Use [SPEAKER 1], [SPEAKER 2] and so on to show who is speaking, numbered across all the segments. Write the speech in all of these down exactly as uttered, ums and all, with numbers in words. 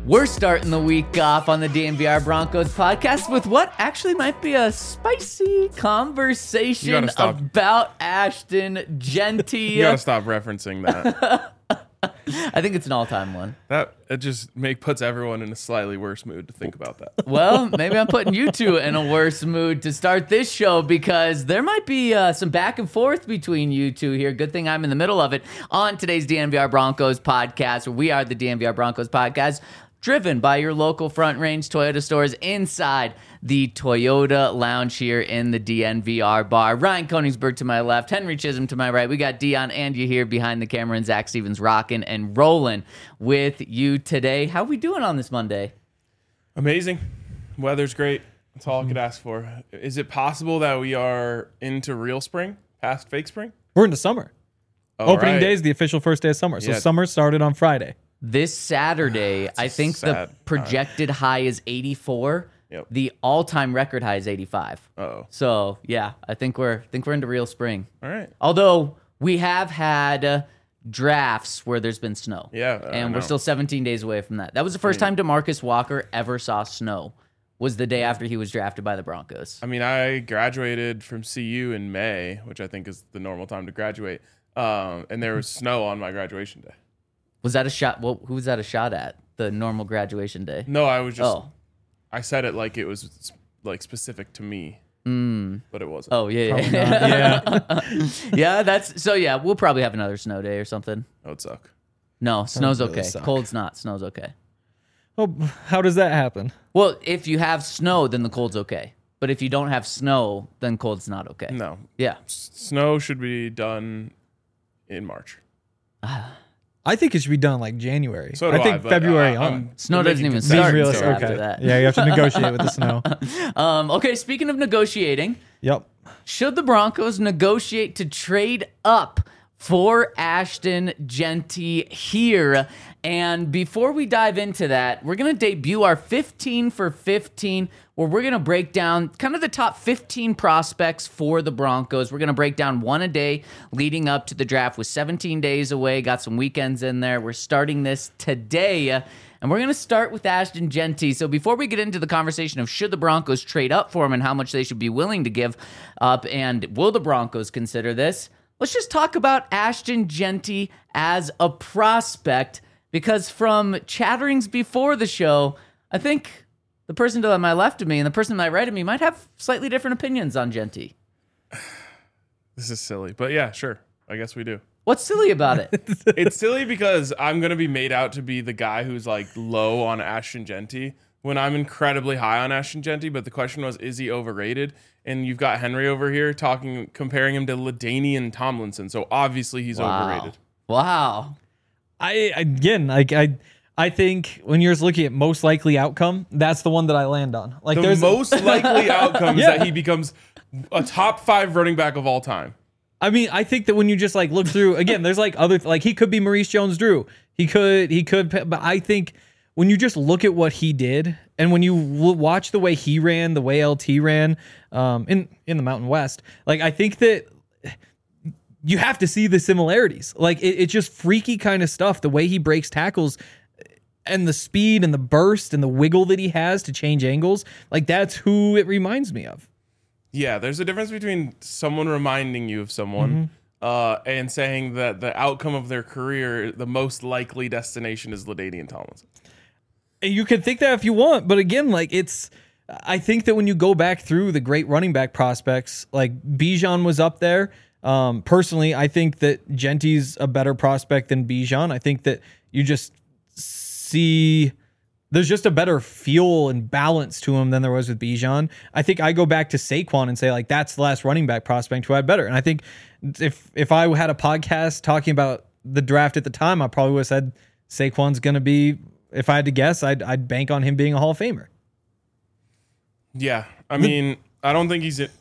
[SPEAKER 1] We're starting the week off on the D N V R Broncos podcast with what actually might be a spicy conversation about Ashton Jeanty.
[SPEAKER 2] You gotta stop referencing that.
[SPEAKER 1] I think it's an all-time one.
[SPEAKER 2] That it just make puts everyone in a slightly worse mood to think about that.
[SPEAKER 1] Well, maybe I'm putting you two in a worse mood to start this show because there might be uh, some back and forth between you two here. Good thing I'm in the middle of it on today's D N V R Broncos podcast. We are the D N V R Broncos podcast, driven by your local Front Range Toyota stores inside the Toyota Lounge here in the D N V R bar. Ryan Koenigsberg to my left, Henry Chisholm to my right. We got Dion and you here behind the camera, and Zach Stevens rocking and rolling with you today. How we doing on this Monday?
[SPEAKER 2] Amazing. Weather's great. That's all I could ask for. Is it possible that we are into real spring, past fake spring?
[SPEAKER 3] We're into summer.
[SPEAKER 2] All
[SPEAKER 3] Opening
[SPEAKER 2] right.
[SPEAKER 3] day is the official first day of summer. So
[SPEAKER 2] Yeah.
[SPEAKER 3] summer started on Friday.
[SPEAKER 1] This Saturday, I think the
[SPEAKER 2] sad
[SPEAKER 1] projected high is eighty-four.
[SPEAKER 2] Yep.
[SPEAKER 1] The all-time record high is eighty-five.
[SPEAKER 2] Uh-oh.
[SPEAKER 1] So yeah, I think we're think we're into real spring.
[SPEAKER 2] All right.
[SPEAKER 1] Although we have had uh, drafts where there's been snow.
[SPEAKER 2] Yeah, I
[SPEAKER 1] and we're
[SPEAKER 2] know.
[SPEAKER 1] still seventeen days away from that. That was the first time DeMarcus Walker ever saw snow. Was the day after he was drafted by the Broncos.
[SPEAKER 2] I mean, I graduated from C U in May, which I think is the normal time to graduate. Um, and there was snow on my graduation day.
[SPEAKER 1] Was that a shot? Well, who was that a shot at? The normal graduation day.
[SPEAKER 2] No, I was just.
[SPEAKER 1] Oh.
[SPEAKER 2] I said it like it was like specific to me,
[SPEAKER 1] Mm.
[SPEAKER 2] but it wasn't.
[SPEAKER 1] Oh yeah,
[SPEAKER 3] Probably
[SPEAKER 1] yeah,
[SPEAKER 3] not. Yeah.
[SPEAKER 1] yeah. That's so. Yeah, we'll probably have another snow day or something.
[SPEAKER 2] That would suck.
[SPEAKER 1] No, snow's
[SPEAKER 3] really
[SPEAKER 1] okay.
[SPEAKER 3] suck.
[SPEAKER 1] Cold's not. Snow's okay.
[SPEAKER 3] Oh, how does that happen?
[SPEAKER 1] Well, if you have snow, then the cold's okay. But if you don't have snow, then cold's not okay.
[SPEAKER 2] No,
[SPEAKER 1] Yeah.
[SPEAKER 2] S- snow should be done in March.
[SPEAKER 3] I think it should be done like January.
[SPEAKER 2] So do
[SPEAKER 3] I think
[SPEAKER 2] I, but
[SPEAKER 3] February
[SPEAKER 2] I- I'm-
[SPEAKER 3] on.
[SPEAKER 1] Snow
[SPEAKER 2] I'm
[SPEAKER 1] doesn't
[SPEAKER 2] making
[SPEAKER 1] even
[SPEAKER 2] concessions.
[SPEAKER 1] start
[SPEAKER 3] Being
[SPEAKER 1] until
[SPEAKER 3] realistic.
[SPEAKER 1] after
[SPEAKER 3] Okay.
[SPEAKER 1] that.
[SPEAKER 3] Yeah, you have to negotiate with the snow.
[SPEAKER 1] Um, okay, speaking of negotiating,
[SPEAKER 3] Yep.
[SPEAKER 1] should the Broncos negotiate to trade up for Ashton Jeanty here? And before we dive into that, we're going to debut our fifteen for fifteen, where we're going to break down kind of the top fifteen prospects for the Broncos. We're going to break down one a day leading up to the draft with seventeen days away. Got some weekends in there. We're starting this today. And we're going to start with Ashton Jeanty. So before we get into the conversation of should the Broncos trade up for him and how much they should be willing to give up, and will the Broncos consider this, let's just talk about Ashton Jeanty as a prospect, because from chatterings before the show, I think the person to my left of me and the person to my right of me might have slightly different opinions on Jeanty.
[SPEAKER 2] This is silly, but yeah, sure. I guess we do.
[SPEAKER 1] What's silly about it?
[SPEAKER 2] It's silly because I'm going to be made out to be the guy who's like low on Ashton Jeanty when I'm incredibly high on Ashton Jeanty. But the question was, is he overrated? And you've got Henry over here talking, comparing him to LaDainian Tomlinson. So obviously he's
[SPEAKER 1] Wow.
[SPEAKER 2] overrated.
[SPEAKER 1] Wow.
[SPEAKER 3] I again, like I, I think when you're just looking at most likely outcome, that's the one that I land on. Like
[SPEAKER 2] The
[SPEAKER 3] there's
[SPEAKER 2] most likely outcome is
[SPEAKER 3] Yeah.
[SPEAKER 2] that he becomes a top five running back of all time.
[SPEAKER 3] I mean, I think that when you just like look through again, there's like other like he could be Maurice Jones-Drew. He could he could but I think when you just look at what he did and when you w- watch the way he ran, the way L T ran um in in the Mountain West, like I think that you have to see the similarities. Like it, it's just freaky kind of stuff, the way he breaks tackles and the speed and the burst and the wiggle that he has to change angles. Like that's who it reminds me of.
[SPEAKER 2] Yeah, there's a difference between someone reminding you of someone
[SPEAKER 3] Mm-hmm.
[SPEAKER 2] uh, and saying that the outcome of their career, the most likely destination is LaDainian Tomlinson.
[SPEAKER 3] And you can think that if you want, but again, like it's, I think that when you go back through the great running back prospects, like Bijan was up there. Um, personally, I think that Jeanty's a better prospect than Bijan. I think that you just see there's just a better feel and balance to him than there was with Bijan. I think I go back to Saquon and say like that's the last running back prospect who had better. And I think if if I had a podcast talking about the draft at the time, I probably would have said Saquon's going to be. If I had to guess, I'd I'd bank on him being a Hall of Famer.
[SPEAKER 2] Yeah, I mean, I don't think he's at,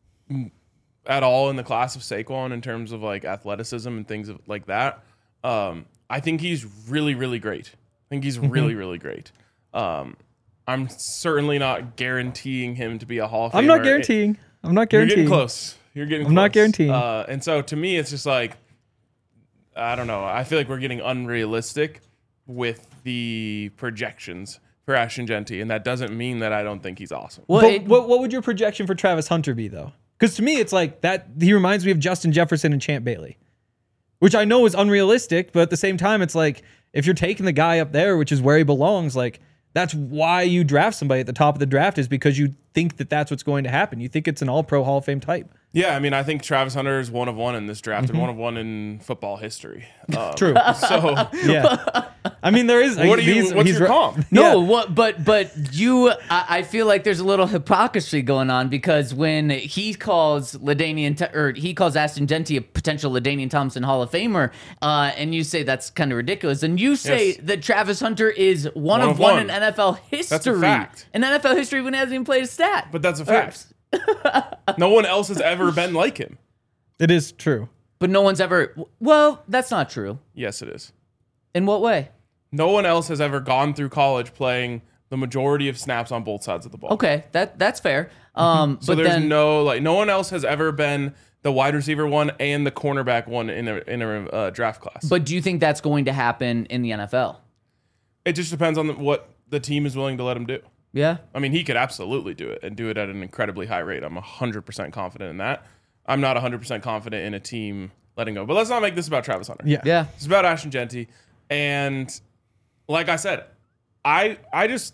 [SPEAKER 2] at all in the class of Saquon in terms of like athleticism and things of, like that. Um, I think he's really, really great. I think he's really, really great. Um, I'm certainly not guaranteeing him to be a Hall of Famer.
[SPEAKER 3] I'm not guaranteeing. I'm not
[SPEAKER 2] You're
[SPEAKER 3] guaranteeing.
[SPEAKER 2] getting close. You're getting.
[SPEAKER 3] I'm
[SPEAKER 2] close.
[SPEAKER 3] not guaranteeing.
[SPEAKER 2] Uh, and so to me, it's just like I don't know. I feel like we're getting unrealistic with the projections for Ashton Jeanty, and that doesn't mean that I don't think he's awesome.
[SPEAKER 1] Well,
[SPEAKER 3] But
[SPEAKER 1] it-
[SPEAKER 3] what, what would your projection for Travis Hunter be, though? Because to me, it's like that. He reminds me of Justin Jefferson and Champ Bailey, which I know is unrealistic, but at the same time, it's like if you're taking the guy up there, which is where he belongs, like that's why you draft somebody at the top of the draft, is because you think that that's what's going to happen. You think it's an all-pro Hall of Fame type.
[SPEAKER 2] Yeah, I mean, I think Travis Hunter is one of one in this draft and one of one in football history. Um,
[SPEAKER 3] True.
[SPEAKER 2] So,
[SPEAKER 3] Yeah. I mean, there is.
[SPEAKER 2] what do you?
[SPEAKER 3] he's-
[SPEAKER 2] What's
[SPEAKER 3] he's
[SPEAKER 2] your
[SPEAKER 3] ri-
[SPEAKER 2] comp?
[SPEAKER 1] No,
[SPEAKER 3] Yeah.
[SPEAKER 1] what? But but you, I, I feel like there's a little hypocrisy going on because when he calls LaDainian or he calls Ashton Jeanty a potential LaDainian Thompson Hall of Famer, uh, and you say that's kind of ridiculous, and you say
[SPEAKER 2] Yes.
[SPEAKER 1] that Travis Hunter is one,
[SPEAKER 2] One
[SPEAKER 1] of
[SPEAKER 2] of
[SPEAKER 1] one,
[SPEAKER 2] one.
[SPEAKER 1] in N F L history.
[SPEAKER 2] That's a fact.
[SPEAKER 1] In N F L history when he hasn't even played a stat.
[SPEAKER 2] But that's a fact. No one else has ever been like him.
[SPEAKER 3] It is true.
[SPEAKER 1] But no one's ever. Well, that's not true.
[SPEAKER 2] Yes, it is.
[SPEAKER 1] In what way?
[SPEAKER 2] No one else has ever gone through college playing the majority of snaps on both sides of the ball.
[SPEAKER 1] Okay, that that's fair. Um,
[SPEAKER 2] So
[SPEAKER 1] but
[SPEAKER 2] there's
[SPEAKER 1] then
[SPEAKER 2] no like no one else has ever been the wide receiver one and the cornerback one in a in a uh, draft class.
[SPEAKER 1] But do you think that's going to happen in the N F L?
[SPEAKER 2] It just depends on the, what the team is willing to let him do.
[SPEAKER 1] Yeah.
[SPEAKER 2] I mean, he could absolutely do it and do it at an incredibly high rate. I'm one hundred percent confident in that. I'm not one hundred percent confident in a team letting go. But let's not make this about Travis Hunter.
[SPEAKER 3] Yeah.
[SPEAKER 1] Yeah.
[SPEAKER 2] It's about Ashton Jeanty. And like I said, I I just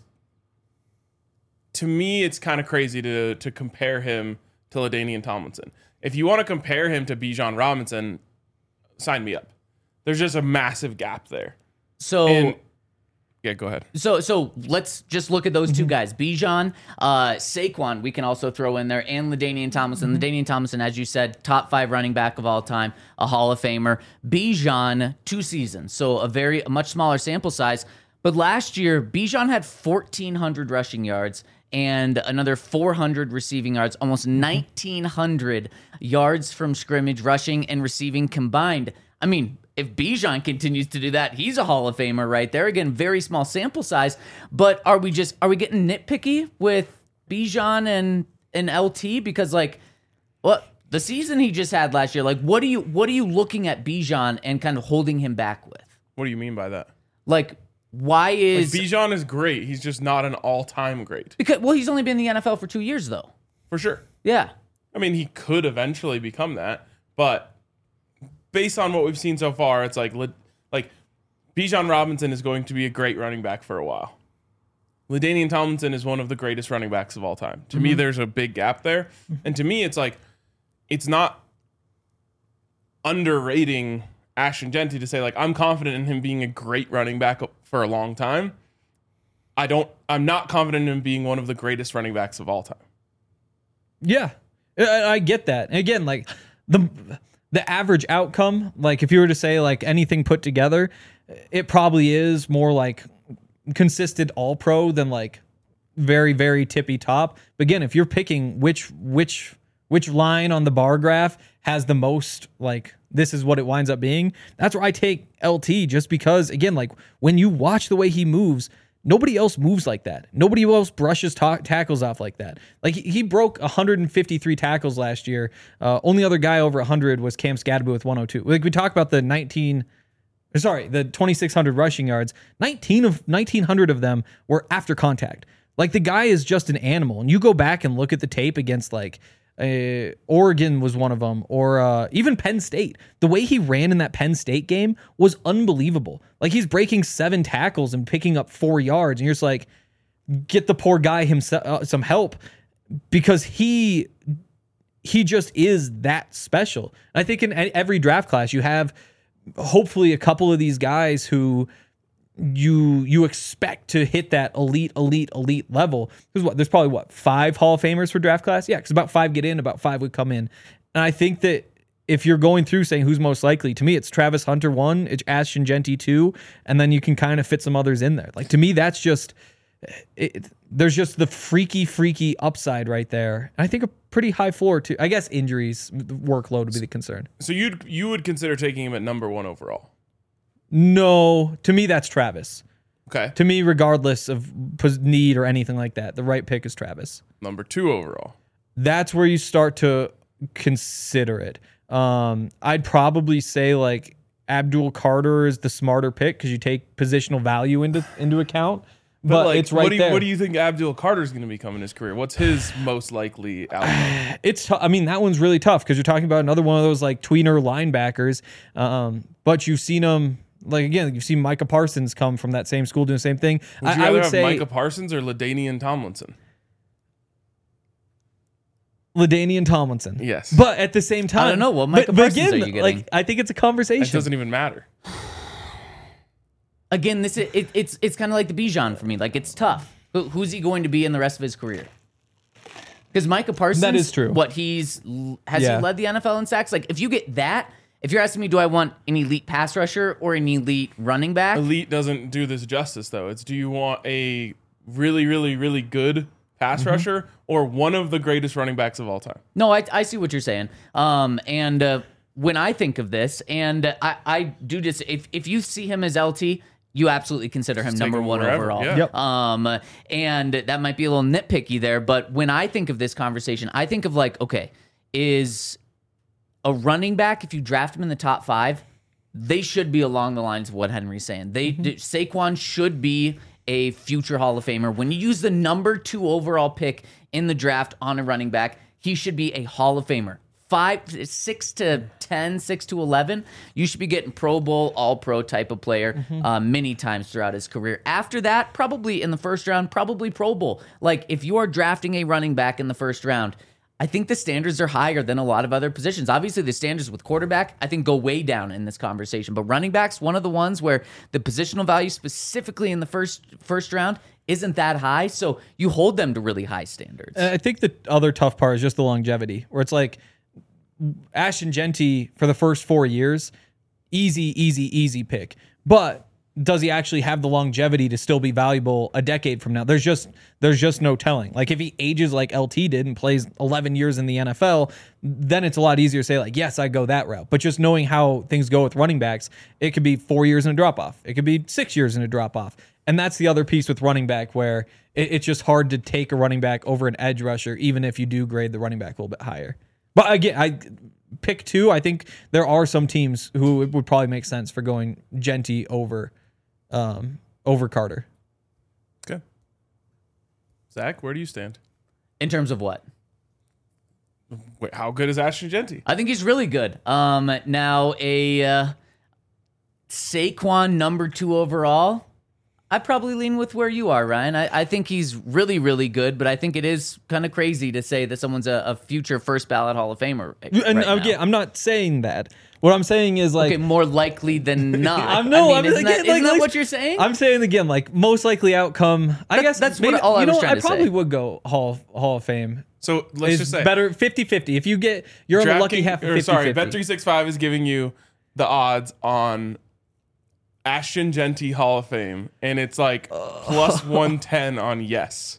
[SPEAKER 2] to me it's kind of crazy to to compare him to LaDainian Tomlinson. If you want to compare him to Bijan Robinson, sign me up. There's just a massive gap there.
[SPEAKER 1] So
[SPEAKER 2] And yeah, go ahead.
[SPEAKER 1] So so let's just look at those two guys. Bijan, uh, Saquon, we can also throw in there, and LaDainian Tomlinson. LaDainian Tomlinson, as you said, top five running back of all time, a Hall of Famer. Bijan, two seasons, so a very a much smaller sample size. But last year, Bijan had fourteen hundred rushing yards and another four hundred receiving yards, almost nineteen hundred yards from scrimmage, rushing and receiving combined. I mean, if Bijan continues to do that, he's a Hall of Famer right there. Again, very small sample size, but are we just are we getting nitpicky with Bijan and and L T because like what the season he just had last year? Like, what are you what are you looking at Bijan and kind of holding him back with?
[SPEAKER 2] What do you mean by that?
[SPEAKER 1] Like, why is
[SPEAKER 2] Bijan is great. He's just not an all-time great.
[SPEAKER 1] because well he's only been in the N F L for two years though.
[SPEAKER 2] For sure.
[SPEAKER 1] Yeah.
[SPEAKER 2] I mean, he could eventually become that, but based on what we've seen so far, it's like like Bijan Robinson is going to be a great running back for a while. LaDainian Tomlinson is one of the greatest running backs of all time. To mm-hmm. me, there's a big gap there. And to me, it's like it's not underrating Ashton Jeanty to say like I'm confident in him being a great running back for a long time. I don't I'm not confident in him being one of the greatest running backs of all time.
[SPEAKER 3] Yeah. I, I get that. And again, like the the average outcome, like if you were to say like anything put together, it probably is more like consistent all pro than like very, very tippy top. But again, if you're picking which which which line on the bar graph has the most like this is what it winds up being, that's where I take L T just because again, like when you watch the way he moves, nobody else moves like that. Nobody else brushes ta- tackles off like that. Like he, he broke one hundred fifty-three tackles last year. Uh, only other guy over one hundred was Cam Scadaboo with one oh two. Like we talk about the nineteen, sorry, the twenty-six hundred rushing yards. nineteen of nineteen hundred of them were after contact. Like the guy is just an animal. And you go back and look at the tape against like uh, Oregon was one of them, or uh, even Penn State. The way he ran in that Penn State game was unbelievable. Like he's breaking seven tackles and picking up four yards, and you're just like, get the poor guy himself uh, some help because he he just is that special. And I think in every draft class you have hopefully a couple of these guys who you you expect to hit that elite, elite, elite level. There's what there's probably what five Hall of Famers for draft class. Yeah, because about five get in, about five would come in. And I think that if you're going through saying who's most likely, to me it's Travis Hunter one, it's Ashton Jeanty two, and then you can kind of fit some others in there. Like to me, that's just it, there's just the freaky, freaky upside right there. And I think a pretty high floor too. I guess injuries, workload would be the concern.
[SPEAKER 2] So you you would consider taking him at number one overall?
[SPEAKER 3] No, to me that's Travis.
[SPEAKER 2] Okay.
[SPEAKER 3] To me, regardless of need or anything like that, the right pick is Travis.
[SPEAKER 2] Number two overall.
[SPEAKER 3] That's where you start to consider it. Um, I'd probably say like Abdul Carter is the smarter pick because you take positional value into into account. But,
[SPEAKER 2] like,
[SPEAKER 3] it's right
[SPEAKER 2] what do you,
[SPEAKER 3] there.
[SPEAKER 2] What do you think Abdul Carter's going to become in his career? What's his most likely outcome?
[SPEAKER 3] It's t- I mean, that one's really tough because you're talking about another one of those like tweener linebackers. Um, but you've seen them, like, again, you've seen Micah Parsons come from that same school doing the same thing.
[SPEAKER 2] Would you
[SPEAKER 3] I, I
[SPEAKER 2] rather
[SPEAKER 3] would
[SPEAKER 2] have
[SPEAKER 3] say
[SPEAKER 2] Micah Parsons or LaDainian Tomlinson?
[SPEAKER 3] LaDainian Tomlinson.
[SPEAKER 2] Yes.
[SPEAKER 3] But at the same time,
[SPEAKER 1] I don't know. What Micah
[SPEAKER 3] but, but
[SPEAKER 1] Parsons
[SPEAKER 3] again,
[SPEAKER 1] are you getting?
[SPEAKER 3] like, I think it's a conversation.
[SPEAKER 2] It doesn't even matter.
[SPEAKER 1] Again, this is, it, it's it's kind of like the Bijan for me. Like, it's tough. Who, who's he going to be in the rest of his career? Because Micah Parsons,
[SPEAKER 3] That is true.
[SPEAKER 1] What he's has
[SPEAKER 3] Yeah.
[SPEAKER 1] he led the N F L in sacks? Like, if you get that, if you're asking me, do I want an elite pass rusher or an elite running back?
[SPEAKER 2] Elite doesn't do this justice, though. It's do you want a really, really, really good pass
[SPEAKER 3] Mm-hmm.
[SPEAKER 2] rusher or one of the greatest running backs of all time?
[SPEAKER 1] No, I, I see what you're saying. Um, and uh, when I think of this, and I, I do just if if you see him as L T, you absolutely consider him
[SPEAKER 2] take
[SPEAKER 1] number
[SPEAKER 2] him
[SPEAKER 1] one
[SPEAKER 2] wherever,
[SPEAKER 1] overall.
[SPEAKER 2] yeah.
[SPEAKER 3] Yep.
[SPEAKER 1] Um, and that might be a little nitpicky there, but when I think of this conversation, I think of like, okay, is a running back, if you draft him in the top five, they should be along the lines of what Henry's saying. They
[SPEAKER 3] Mm-hmm.
[SPEAKER 1] Saquon should be a future Hall of Famer. When you use the number two overall pick in the draft on a running back, he should be a Hall of Famer. Five, six to ten, six to eleven, you should be getting Pro Bowl, All Pro type of player
[SPEAKER 3] Mm-hmm.
[SPEAKER 1] uh, many times throughout his career. After that, probably in the first round, probably Pro Bowl. Like if you are drafting a running back in the first round, I think the standards are higher than a lot of other positions. Obviously, the standards with quarterback, I think, go way down in this conversation. But running back's one of the ones where the positional value, specifically in the first first round, isn't that high. So you hold them to really high standards.
[SPEAKER 3] I think the other tough part is just the longevity, where it's like Ashton Genty for the first four years, easy, easy, easy pick. But does he actually have the longevity to still be valuable a decade from now? There's just there's just no telling. Like if he ages like L T did and plays eleven years in the N F L, then it's a lot easier to say like, yes, I go that route. But just knowing how things go with running backs, it could be four years in a drop off. It could be six years in a drop off. And that's the other piece with running back where it, it's just hard to take a running back over an edge rusher, even if you do grade the running back a little bit higher. But again, I pick two. I think there are some teams who it would probably make sense for going Genty over um, over Carter.
[SPEAKER 2] Okay. Zach, where do you stand?
[SPEAKER 1] In terms of what?
[SPEAKER 2] Wait, how good is Ashton Genty?
[SPEAKER 1] I think he's really good. Um, now a uh, Saquon number two overall. I probably lean with where you are, Ryan. I, I think he's really, really good, but I think it is kind of crazy to say that someone's a, a future first ballot Hall of Famer.
[SPEAKER 3] And
[SPEAKER 1] right
[SPEAKER 3] again,
[SPEAKER 1] now.
[SPEAKER 3] I'm not saying that. What I'm saying is like
[SPEAKER 1] Okay, more likely than not.
[SPEAKER 3] I'm no,
[SPEAKER 1] I mean,
[SPEAKER 3] I'm
[SPEAKER 1] isn't,
[SPEAKER 3] again,
[SPEAKER 1] that,
[SPEAKER 3] like,
[SPEAKER 1] isn't that
[SPEAKER 3] like,
[SPEAKER 1] what you're saying?
[SPEAKER 3] I'm saying again, like most likely outcome. I
[SPEAKER 1] That-
[SPEAKER 3] guess
[SPEAKER 1] that's
[SPEAKER 3] maybe,
[SPEAKER 1] what all I
[SPEAKER 3] you know
[SPEAKER 1] was
[SPEAKER 3] what,
[SPEAKER 1] trying
[SPEAKER 3] I
[SPEAKER 1] to
[SPEAKER 3] probably
[SPEAKER 1] say.
[SPEAKER 3] would go Hall Hall of Fame.
[SPEAKER 2] So let's
[SPEAKER 3] It's
[SPEAKER 2] just say
[SPEAKER 3] better fifty-fifty. If you get you're on the lucky
[SPEAKER 2] DraftKings-
[SPEAKER 3] half of
[SPEAKER 2] or
[SPEAKER 3] fifty-fifty.
[SPEAKER 2] sorry, Bet three sixty-five is giving you the odds on Ashton Genty Hall of Fame, and it's like plus one ten on yes.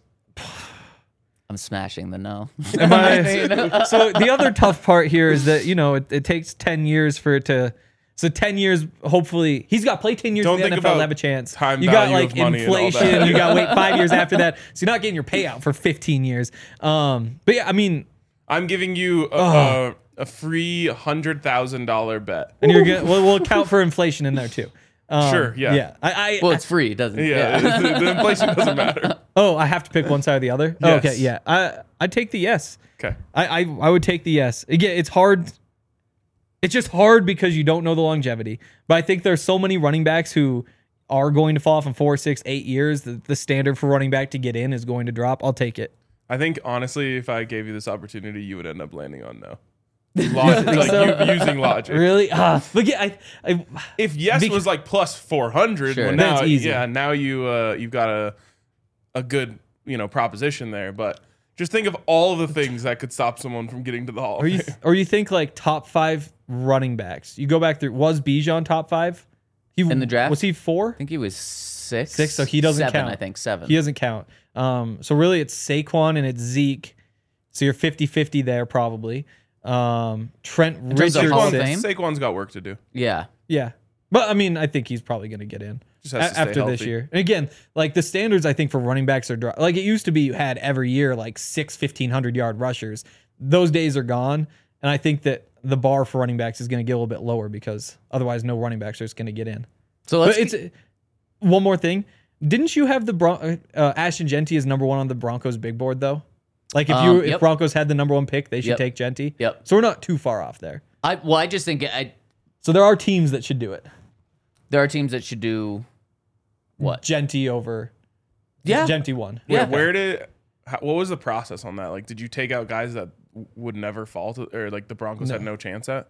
[SPEAKER 1] I'm smashing the no.
[SPEAKER 3] Am I- so the other tough part here is that you know it, it takes ten years for it to. So ten years, hopefully, he's got to play ten years
[SPEAKER 2] Don't
[SPEAKER 3] in the
[SPEAKER 2] think
[SPEAKER 3] N F L to
[SPEAKER 2] about
[SPEAKER 3] have a chance.
[SPEAKER 2] time
[SPEAKER 3] you got
[SPEAKER 2] value
[SPEAKER 3] like
[SPEAKER 2] of money and all
[SPEAKER 3] inflation.
[SPEAKER 2] that.
[SPEAKER 3] You got to wait five years after that, so you're not getting your payout for fifteen years. Um, but yeah, I mean,
[SPEAKER 2] I'm giving you a, a, a free hundred thousand dollar bet.
[SPEAKER 3] and you're gonna we'll, we'll account for inflation in there too. Um,
[SPEAKER 2] Sure, yeah.
[SPEAKER 3] yeah. I, I
[SPEAKER 1] Well, it's free, doesn't it?
[SPEAKER 2] Yeah, the, the inflation doesn't matter.
[SPEAKER 3] oh, I have to pick one side or the other. Oh,
[SPEAKER 2] Yes.
[SPEAKER 3] okay, yeah. I I take the yes.
[SPEAKER 2] Okay.
[SPEAKER 3] I, I I would take the yes. Again, it's hard. It's just hard because you don't know the longevity. But I think there's so many running backs who are going to fall off in four, six, eight years. The, the standard for running back to get in is going to drop. I'll take it.
[SPEAKER 2] I think honestly, if I gave you this opportunity, you would end up landing on no. Logic, like
[SPEAKER 3] so?
[SPEAKER 2] you, using logic.
[SPEAKER 3] Really? Ah, but yeah, I, I
[SPEAKER 2] If yes
[SPEAKER 3] Bec-
[SPEAKER 2] was like plus four hundred,
[SPEAKER 1] Sure.
[SPEAKER 2] well,
[SPEAKER 3] Then
[SPEAKER 2] now
[SPEAKER 3] it's easy.
[SPEAKER 2] yeah, now you uh, you've got a a good you know proposition there. But just think of all the things that could stop someone from getting to the Hall
[SPEAKER 3] or
[SPEAKER 2] of
[SPEAKER 3] you
[SPEAKER 2] Fame.
[SPEAKER 3] or you think like top five running backs. You go back through. Was Bijan top five? He
[SPEAKER 1] In the draft?
[SPEAKER 3] was he four?
[SPEAKER 1] I think he was six.
[SPEAKER 3] Six, so he doesn't
[SPEAKER 1] seven,
[SPEAKER 3] count.
[SPEAKER 1] I think seven.
[SPEAKER 3] He doesn't count. Um, so really, it's Saquon and it's Zeke. So you're fifty-fifty there probably. Um, Trent
[SPEAKER 1] terms of Hall of
[SPEAKER 3] Richardson.
[SPEAKER 1] Fame?
[SPEAKER 2] Saquon's got work to do.
[SPEAKER 1] yeah.
[SPEAKER 3] Yeah. But I mean, I think he's probably going to get in
[SPEAKER 2] Just has to
[SPEAKER 3] a-
[SPEAKER 2] stay
[SPEAKER 3] after this
[SPEAKER 2] healthy.
[SPEAKER 3] year. And again, like the standards, I think for running backs are dro- like it used to be. You had every year like six fifteen hundred yard rushers. Those days are gone, and I think that the bar for running backs is going to get a little bit lower because otherwise no running backs are just going to get in.
[SPEAKER 1] So let's
[SPEAKER 3] but it's one more thing. Didn't you have the Bron- uh, Ashton Jeanty as number one on the Broncos big board though? Like if you
[SPEAKER 1] Um,
[SPEAKER 3] if
[SPEAKER 1] yep.
[SPEAKER 3] Broncos had the number one pick, they should
[SPEAKER 1] Yep.
[SPEAKER 3] take Jeanty.
[SPEAKER 1] Yep.
[SPEAKER 3] So we're not too far off there.
[SPEAKER 1] I well, I just think I
[SPEAKER 3] So there are teams that should do it.
[SPEAKER 1] there are teams that should do what?
[SPEAKER 3] Jeanty over.
[SPEAKER 1] Yeah.
[SPEAKER 3] Jeanty one.
[SPEAKER 2] Where,
[SPEAKER 1] Yeah.
[SPEAKER 2] where did how, what was the process on that? Like, did you take out guys that w- would never fall to, or like the Broncos had no chance at?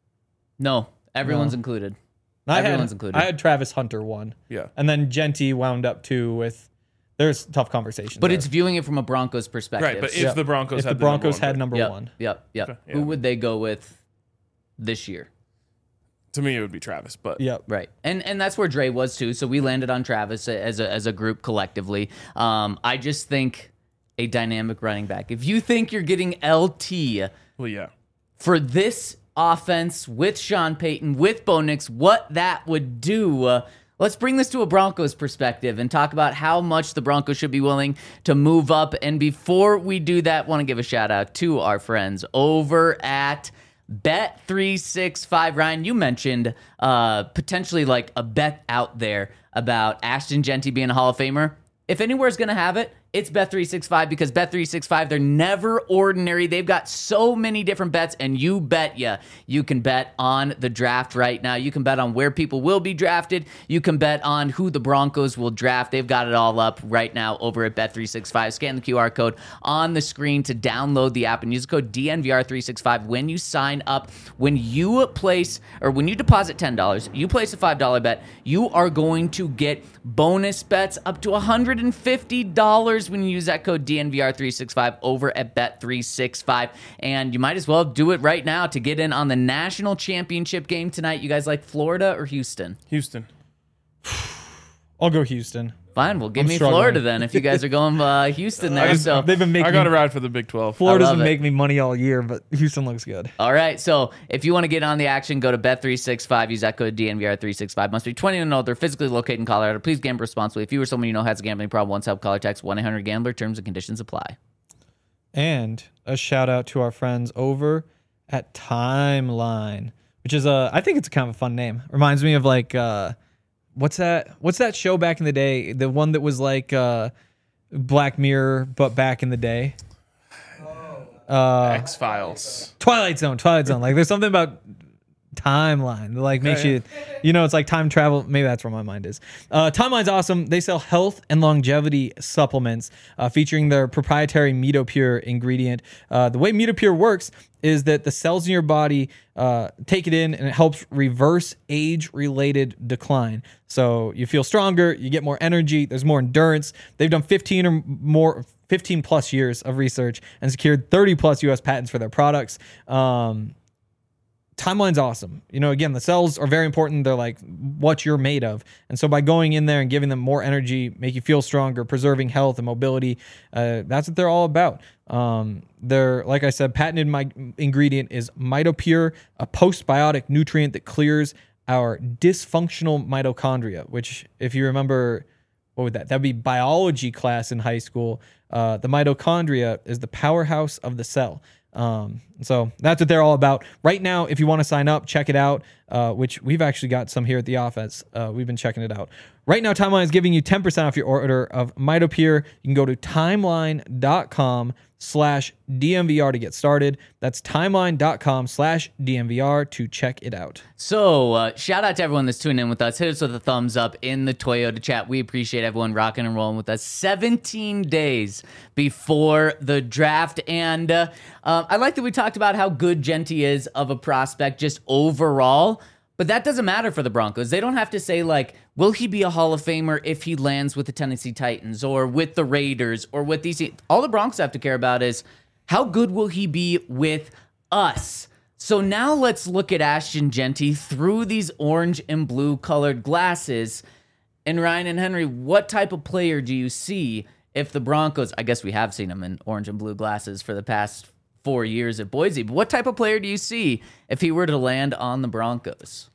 [SPEAKER 1] No, everyone's
[SPEAKER 3] No.
[SPEAKER 1] included.
[SPEAKER 3] I
[SPEAKER 1] Everyone's
[SPEAKER 3] had,
[SPEAKER 1] included.
[SPEAKER 3] I had Travis Hunter one.
[SPEAKER 2] Yeah.
[SPEAKER 3] And then Jeanty wound up two with. There's tough conversations.
[SPEAKER 1] But
[SPEAKER 3] there.
[SPEAKER 1] it's viewing it from a Broncos perspective.
[SPEAKER 2] Right, but if
[SPEAKER 3] Yep.
[SPEAKER 2] the Broncos
[SPEAKER 3] if
[SPEAKER 2] had
[SPEAKER 3] the Broncos
[SPEAKER 2] the
[SPEAKER 3] had
[SPEAKER 2] number
[SPEAKER 3] number
[SPEAKER 1] yep,
[SPEAKER 3] one.
[SPEAKER 1] Yep, yep.
[SPEAKER 2] Okay,
[SPEAKER 1] Who
[SPEAKER 2] yeah.
[SPEAKER 1] would they go with this year?
[SPEAKER 2] one, to me it would be Travis. But
[SPEAKER 3] Yep.
[SPEAKER 1] Right, and and that's where Dre was too. So we landed on Travis as a as a group collectively. Um, I just think a dynamic running back. If you think you're getting L T
[SPEAKER 2] well, yeah.
[SPEAKER 1] for this offense with Sean Payton, with Bo Nix, what that would do. Uh, let's bring this to a Broncos perspective and talk about how much the Broncos should be willing to move up. And before we do that, want to give a shout out to our friends over at Bet three sixty-five. Ryan, you mentioned uh, potentially like a bet out there about Ashton Jeanty being a Hall of Famer. If anywhere's going to have it, it's Bet three sixty-five because Bet three sixty-five, they're never ordinary. They've got so many different bets, and you bet ya, you can bet on the draft right now. You can bet on where people will be drafted. You can bet on who the Broncos will draft. They've got it all up right now over at Bet three sixty-five. Scan the Q R code on the screen to download the app and use the code D N V R three sixty-five when you sign up. When you place, or when you deposit ten dollars, you place a five dollar bet, you are going to get bonus bets up to one hundred fifty dollars when you use that code D N V R three sixty-five over at Bet three sixty-five. And you might as well do it right now to get in on the national championship game tonight. You guys like Florida or Houston?
[SPEAKER 2] Houston.
[SPEAKER 3] I'll go Houston.
[SPEAKER 1] Fine, well, give
[SPEAKER 3] I'm
[SPEAKER 1] me
[SPEAKER 3] struggling.
[SPEAKER 1] Florida then if you guys are going uh, Houston there.
[SPEAKER 2] I just-
[SPEAKER 1] So
[SPEAKER 3] They've been making
[SPEAKER 2] I got to ride for the Big twelve.
[SPEAKER 3] Florida
[SPEAKER 1] I love
[SPEAKER 3] doesn't
[SPEAKER 1] it.
[SPEAKER 3] make me money all year, but Houston looks good.
[SPEAKER 1] All right, so if you want to get on the action, go to Bet three sixty-five. Use that code D N V R three sixty-five. Must be twenty and older, physically located in Colorado. Please gamble responsibly. If you or someone you know has a gambling problem, once help, call or text one eight hundred gambler. Terms and conditions apply.
[SPEAKER 3] And a shout out to our friends over at Timeline, which is a, I think it's kind of a fun name. Reminds me of like, uh, what's that? What's that show back in the day? The one that was like uh, Black Mirror, but back in the day. Uh,
[SPEAKER 2] X Files.
[SPEAKER 3] Twilight Zone, Twilight Zone. Like there's something about Timeline that like makes
[SPEAKER 2] yeah.
[SPEAKER 3] you, you know, it's like time travel. Maybe that's where my mind is. Uh, Timeline's awesome. They sell health and longevity supplements uh, featuring their proprietary MitoPure ingredient. Uh, the way MitoPure works is that the cells in your body uh, take it in and it helps reverse age-related decline. So you feel stronger, you get more energy, there's more endurance. They've done fifteen or more, fifteen plus years of research and secured thirty plus U S patents for their products. Um, Timeline's awesome. You know, again, the cells are very important. They're like what you're made of. And so by going in there and giving them more energy, make you feel stronger, preserving health and mobility, uh, that's what they're all about. Um, they're, like I said, patented my ingredient is MitoPure, a postbiotic nutrient that clears our dysfunctional mitochondria, which if you remember, what would that? That'd be biology class in high school. Uh, the mitochondria is the powerhouse of the cell. Um, so that's what they're all about. Right now, if you want to sign up, check it out, uh, which we've actually got some here at the office. Uh, we've been checking it out. Right now, Timeline is giving you ten percent off your order of MitoPure. You can go to timeline.com slash DMVR to get started. That's timeline.com slash DMVR to check it out.
[SPEAKER 1] So, uh, shout out to everyone that's tuning in with us. Hit us with a thumbs up in the Toyota chat. We appreciate everyone rocking and rolling with us. seventeen days before the draft. And uh, uh, I like that we talked about how good Jeanty is of a prospect just overall. But that doesn't matter for the Broncos. They don't have to say, like, will he be a Hall of Famer if he lands with the Tennessee Titans or with the Raiders or with these? All the Broncos have to care about is how good will he be with us? So now let's look at Ashton Jeanty through these orange and blue colored glasses. And Ryan and Henry, what type of player do you see if the Broncos, I guess we have seen him in orange and blue glasses for the past four years at Boise, but what type of player do you see if he were to land on the Broncos?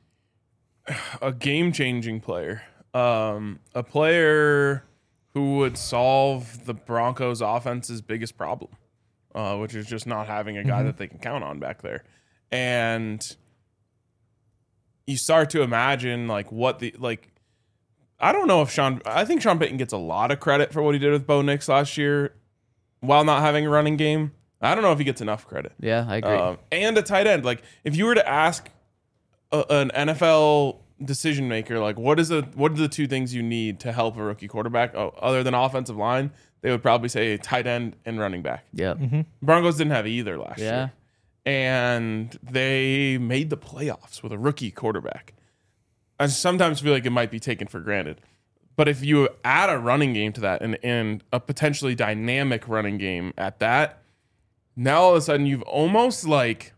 [SPEAKER 2] A game-changing player. Um, a player who would solve the Broncos' offense's biggest problem, uh, which is just not having a guy
[SPEAKER 3] Mm-hmm.
[SPEAKER 2] that they can count on back there. And you start to imagine like what the like I don't know if Sean I think Sean Payton gets a lot of credit for what he did with Bo Nix last year while not having a running game. I don't know if he gets enough credit.
[SPEAKER 1] Yeah, I agree.
[SPEAKER 2] Um, and a tight end. Like if you were to ask a, an N F L decision maker, like what is the what are the two things you need to help a rookie quarterback oh, other than offensive line? They would probably say tight end and running back.
[SPEAKER 1] Yeah.
[SPEAKER 3] Mm-hmm.
[SPEAKER 2] Broncos didn't have either last
[SPEAKER 1] Yeah.
[SPEAKER 2] year. And they made the playoffs with a rookie quarterback. I sometimes feel like it might be taken for granted. But if you add a running game to that and, and a potentially dynamic running game at that, now all of a sudden you've almost like,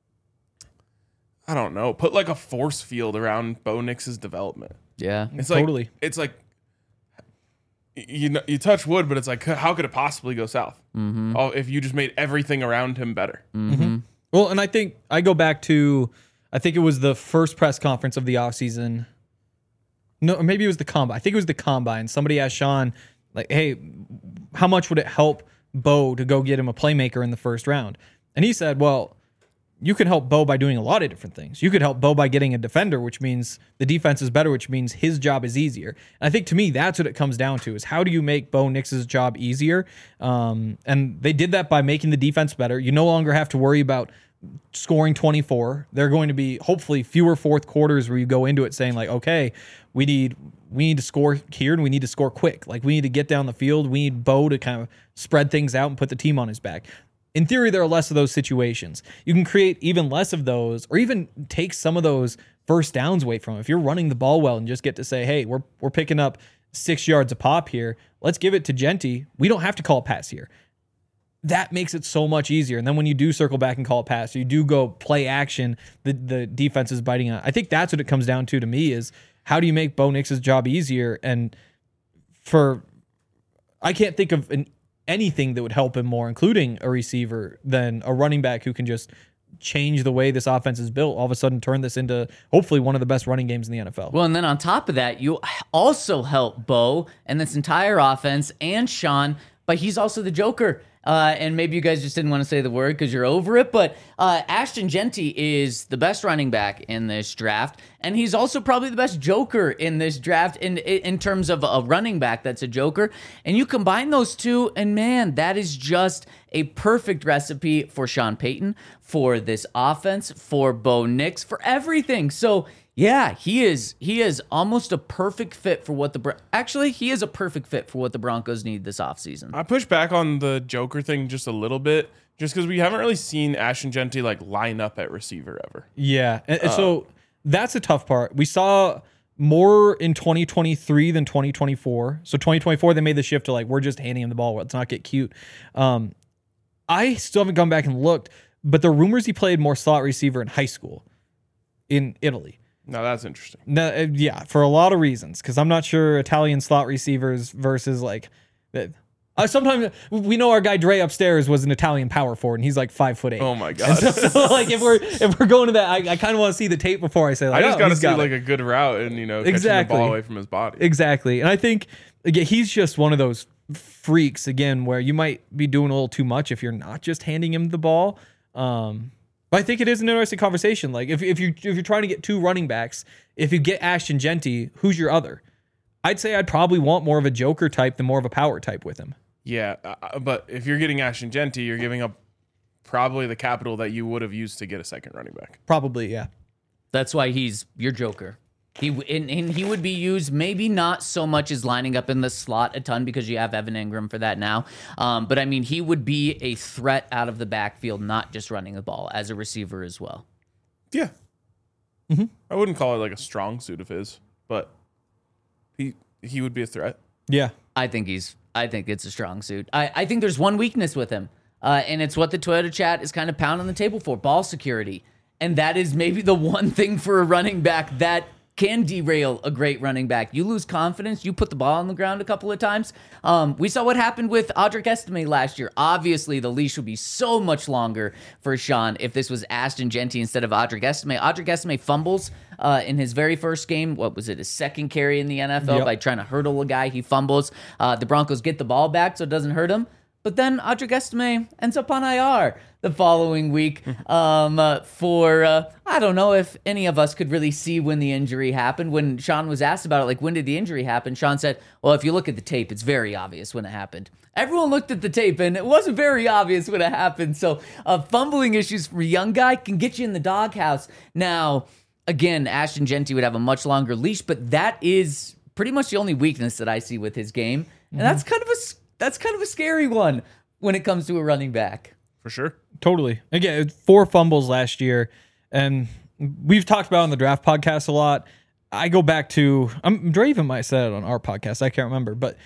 [SPEAKER 2] I don't know, put like a force field around Bo Nix's development.
[SPEAKER 1] Yeah.
[SPEAKER 2] It's
[SPEAKER 3] Totally.
[SPEAKER 2] like, it's like, you know, you touch wood, but it's like, how could it possibly go south? Mm-hmm. Oh, if you just made everything around him better.
[SPEAKER 1] Mm-hmm.
[SPEAKER 3] Well, and I think I go back to, I think it was the first press conference of the offseason. No, or maybe it was the combine. I think it was the combine. Somebody asked Sean, like, hey, how much would it help Bo to go get him a playmaker in the first round? And he said, well, you can help Bo by doing a lot of different things. You could help Bo by getting a defender, which means the defense is better, which means his job is easier. And I think to me, that's what it comes down to is how do you make Bo Nix's job easier? Um, and they did that by making the defense better. You no longer have to worry about scoring twenty-four. There are going to be hopefully fewer fourth quarters where you go into it saying like, okay, we need we need to score here and we need to score quick. Like we need to get down the field. We need Bo to kind of spread things out and put the team on his back. In theory, there are less of those situations. You can create even less of those or even take some of those first downs away from him. If you're running the ball well and just get to say, hey, we're we're picking up six yards a pop here. Let's give it to Genty. We don't have to call a pass here. That makes it so much easier. And then when you do circle back and call a pass, you do go play action, the, the defense is biting on. I think that's what it comes down to to me is how do you make Bo Nix's job easier? And for, I can't think of an, anything that would help him more, including a receiver, than a running back who can just change the way this offense is built, all of a sudden turn this into hopefully one of the best running games in the N F L.
[SPEAKER 1] Well, and then on top of that, you also help Bo and this entire offense and Sean, but he's also the Joker. Uh, and maybe you guys just didn't want to say the word because you're over it, but uh, Ashton Genty is the best running back in this draft, and he's also probably the best joker in this draft in in terms of a running back that's a joker. And you combine those two, and man, that is just a perfect recipe for Sean Payton, for this offense, for Bo Nix, for everything. So yeah, he is he is almost a perfect fit for what the Bron- actually he is a perfect fit for what the Broncos need this offseason.
[SPEAKER 2] I push back on the Joker thing just a little bit, just because we haven't really seen Ashton Genty like line up at receiver ever.
[SPEAKER 3] Yeah, and, and so that's a tough part. We saw more in twenty twenty-three than twenty twenty-four. So twenty twenty-four, they made the shift to like, we're just handing him the ball. Let's not get cute. Um, I still haven't gone back and looked, but the rumors he played more slot receiver in high school in Italy.
[SPEAKER 2] No, that's interesting.
[SPEAKER 3] No, uh, yeah, for a lot of reasons, because I'm not sure Italian slot receivers versus like. Uh, sometimes we know our guy Dre upstairs was an Italian power forward, and he's like five foot eight.
[SPEAKER 2] Oh my god!
[SPEAKER 3] So, so like if we're if we're going to that, I, I kind of want to see the tape before I say. Like,
[SPEAKER 2] I just
[SPEAKER 3] oh,
[SPEAKER 2] got to
[SPEAKER 3] he's
[SPEAKER 2] see
[SPEAKER 3] got
[SPEAKER 2] like
[SPEAKER 3] it.
[SPEAKER 2] a good route and you know catching
[SPEAKER 3] Exactly.
[SPEAKER 2] the ball away from his body.
[SPEAKER 3] Exactly, and I think again, he's just one of those freaks again where you might be doing a little too much if you're not just handing him the ball. Um, but I think it is an interesting conversation. Like if if you if you're trying to get two running backs, if you get Ashton Genty, who's your other? I'd say I'd probably want more of a joker type than more of a power type with him.
[SPEAKER 2] Yeah, uh, but if you're getting Ashton Genty, you're giving up probably the capital that you would have used to get a second running back.
[SPEAKER 3] Probably, yeah.
[SPEAKER 1] That's why he's your joker. He and, and he would be used maybe not so much as lining up in the slot a ton because you have Evan Ingram for that now. Um, but I mean, he would be a threat out of the backfield, not just running the ball as a receiver as well.
[SPEAKER 2] Yeah,
[SPEAKER 3] mm-hmm.
[SPEAKER 2] I wouldn't call it like a strong suit of his, but he he would be a threat.
[SPEAKER 3] Yeah,
[SPEAKER 1] I think he's. I think it's a strong suit. I, I think there's one weakness with him, uh, and it's what the Toyota chat is kind of pounding the table for: ball security. And that is maybe the one thing for a running back that can derail a great running back. You lose confidence, you put the ball on the ground a couple of times. Um, we saw what happened with Audric Estime last year. Obviously, the leash would be so much longer for Sean if this was Ashton Genty instead of Audric Estime. Audric Estime fumbles uh, in his very first game. What was it, his second carry in the N F L
[SPEAKER 3] Yep.
[SPEAKER 1] by trying to hurdle a guy. He fumbles. Uh, the Broncos get the ball back so it doesn't hurt him. But then Audric Estime ends up on I R the following week um, uh, for, uh, I don't know if any of us could really see when the injury happened. When Sean was asked about it, like, when did the injury happen? Sean said, well, if you look at the tape, it's very obvious when it happened. Everyone looked at the tape, and it wasn't very obvious when it happened. So uh, fumbling issues for a young guy can get you in the doghouse. Now, again, Ashton Jeanty would have a much longer leash, but that is pretty much the only weakness that I see with his game. And mm-hmm. that's kind of a that's kind of a scary one when it comes to a running back.
[SPEAKER 2] For sure.
[SPEAKER 3] Totally. Again, four fumbles last year, and we've talked about it on the draft podcast a lot. I go back to, I'm Dre even might have said it on our podcast, I can't remember, but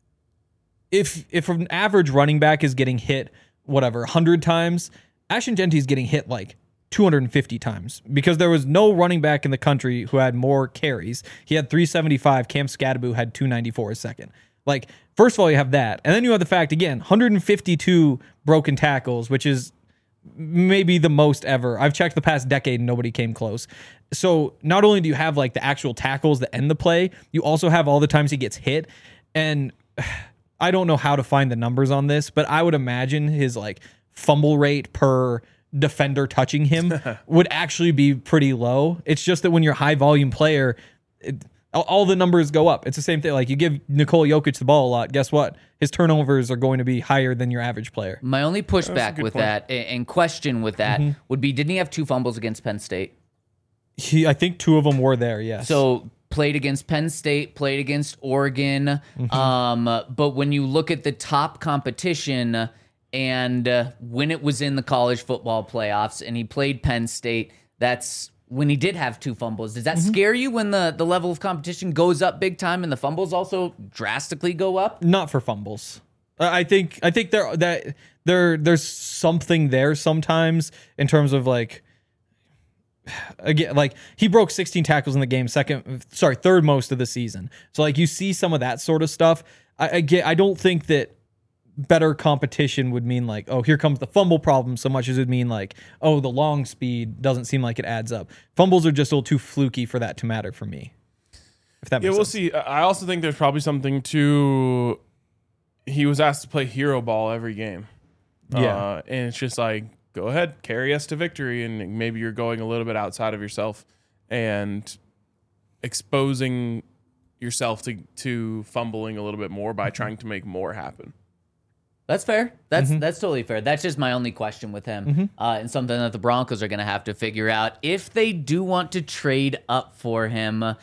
[SPEAKER 3] if if an average running back is getting hit, whatever, one hundred times, Ashton Jeanty is getting hit like two hundred fifty times because there was no running back in the country who had more carries. He had three seventy-five. Cam Scadaboo had two ninety-four a second. Like, first of all, you have that. And then you have the fact, again, one hundred fifty-two broken tackles, which is maybe the most ever. I've checked the past decade and nobody came close. So not only do you have like the actual tackles that end the play, you also have all the times he gets hit. And I don't know how to find the numbers on this, but I would imagine his like fumble rate per defender touching him would actually be pretty low. It's just that when you're a high volume player, it, all the numbers go up. It's the same thing. Like, you give Nikola Jokic the ball a lot, guess what? His turnovers are going to be higher than your average player.
[SPEAKER 1] My only pushback with point. that and question with that mm-hmm. would be, didn't he have two fumbles against Penn State?
[SPEAKER 3] He, I think two of them were there, yes.
[SPEAKER 1] So played against Penn State, played against Oregon. Mm-hmm. Um, but when you look at the top competition and uh, when it was in the college football playoffs and he played Penn State, that's when he did have two fumbles. Does that mm-hmm. scare you when the, the level of competition goes up big time and the fumbles also drastically go up?
[SPEAKER 3] Not for fumbles. I think I think there that there there's something there sometimes in terms of like again like he broke sixteen tackles in the game, second sorry third most of the season. So like you see some of that sort of stuff. I, I get I don't think that better competition would mean like, oh, here comes the fumble problem so much as it would mean like, oh, the long speed doesn't seem like it adds up. Fumbles are just a little too fluky for that to matter for me. If that makes
[SPEAKER 2] yeah, we'll
[SPEAKER 3] sense.
[SPEAKER 2] see. I also think there's probably something to, he was asked to play hero ball every game.
[SPEAKER 3] Yeah.
[SPEAKER 2] Uh, and it's just like, go ahead, carry us to victory. And maybe you're going a little bit outside of yourself and exposing yourself to, to fumbling a little bit more by trying to make more happen.
[SPEAKER 1] That's fair. That's mm-hmm. that's totally fair. That's just my only question with him, mm-hmm. uh, and something that the Broncos are going to have to figure out if they do want to trade up for him.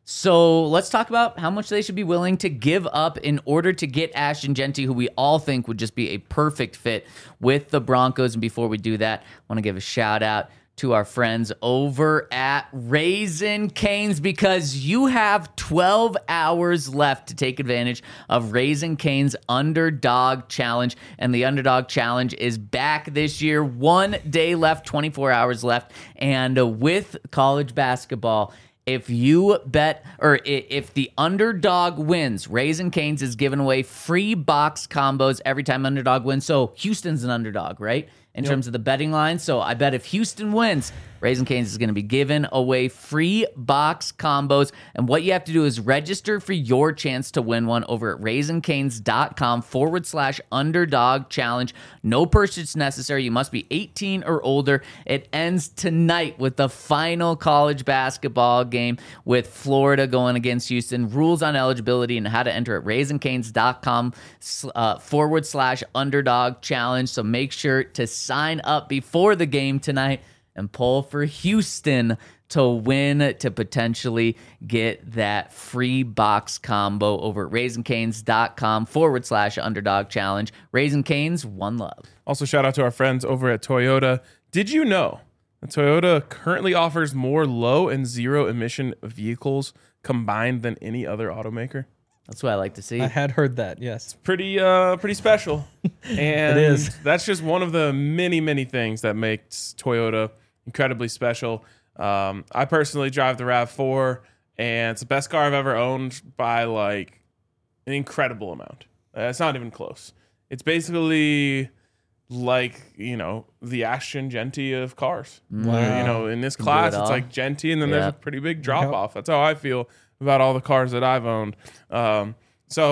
[SPEAKER 1] So let's talk about how much they should be willing to give up in order to get Ashton Jeanty, who we all think would just be a perfect fit with the Broncos. And before we do that, I want to give a shout out to our friends over at Raising Cane's, because you have twelve hours left to take advantage of Raising Cane's Underdog Challenge. And the Underdog Challenge is back this year. One day left, twenty-four hours left. And uh, with college basketball, if you bet, or if the underdog wins, Raising Cane's is giving away free box combos every time underdog wins. So Houston's an underdog, right? In yep. terms of the betting line. So I bet if Houston wins, Raising Cane's is going to be giving away free box combos. And what you have to do is register for your chance to win one over at raisingcanes.com forward slash underdog challenge. No purchase necessary. You must be eighteen or older. It ends tonight with the final college basketball game with Florida going against Houston. Rules on eligibility and how to enter at raisingcanes.com uh, forward slash underdog challenge. So make sure to sign up before the game tonight and pull for Houston to win, to potentially get that free box combo over at raisingcanes.com forward slash underdog challenge. Raising Cane's, one love.
[SPEAKER 2] Also, shout out to our friends over at Toyota. Did you know that Toyota currently offers more low and zero emission vehicles combined than any other automaker?
[SPEAKER 1] That's what I like to see.
[SPEAKER 3] I had heard that, yes.
[SPEAKER 2] It's pretty uh, pretty special. And
[SPEAKER 3] it is.
[SPEAKER 2] That's just one of the many, many things that makes Toyota incredibly special. Um, I personally drive the RAV four, and it's the best car I've ever owned by like an incredible amount. Uh, it's not even close. It's basically like, you know, the Ashton Jeanty of cars.
[SPEAKER 3] Wow.
[SPEAKER 2] You know, in this class, it it's like Jeanty, and then yep. there's a pretty big drop off. That's how I feel about all the cars that I've owned. Um, so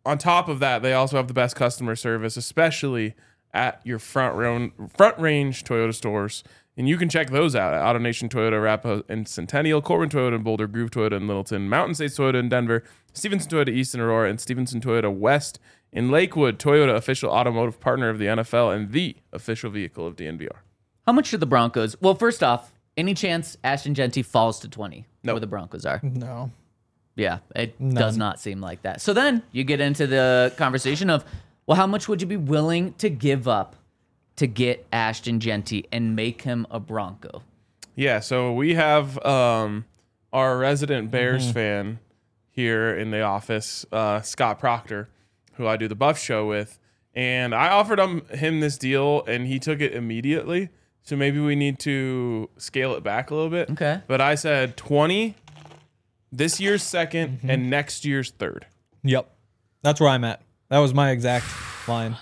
[SPEAKER 2] on top of that, they also have the best customer service, especially at your front row, front range Toyota stores. And you can check those out at AutoNation Toyota, Arapahoe and Centennial, Corbin Toyota and Boulder, Groove Toyota in Littleton, Mountain States Toyota in Denver, Stevenson Toyota East in Aurora, and Stevenson Toyota West in Lakewood. Toyota, official automotive partner of the N F L and the official vehicle of D N V R.
[SPEAKER 1] How much should the Broncos? Well, first off, any chance Ashton Jeanty falls to twenty?
[SPEAKER 2] No.
[SPEAKER 1] Where the Broncos are?
[SPEAKER 3] No.
[SPEAKER 1] Yeah, it
[SPEAKER 3] None.
[SPEAKER 1] does not seem like that. So then you get into the conversation of, well, how much would you be willing to give up to get Ashton Jeanty and make him a Bronco?
[SPEAKER 2] Yeah, so we have um, our resident Bears mm-hmm. fan here in the office, uh, Scott Proctor, who I do the Buff Show with. And I offered him, him this deal, and he took it immediately. So maybe we need to scale it back a little bit.
[SPEAKER 1] Okay.
[SPEAKER 2] But I said twenty, this year's second,
[SPEAKER 3] Mm-hmm.
[SPEAKER 2] and next year's third.
[SPEAKER 3] Yep. That's where I'm at. That was my exact line.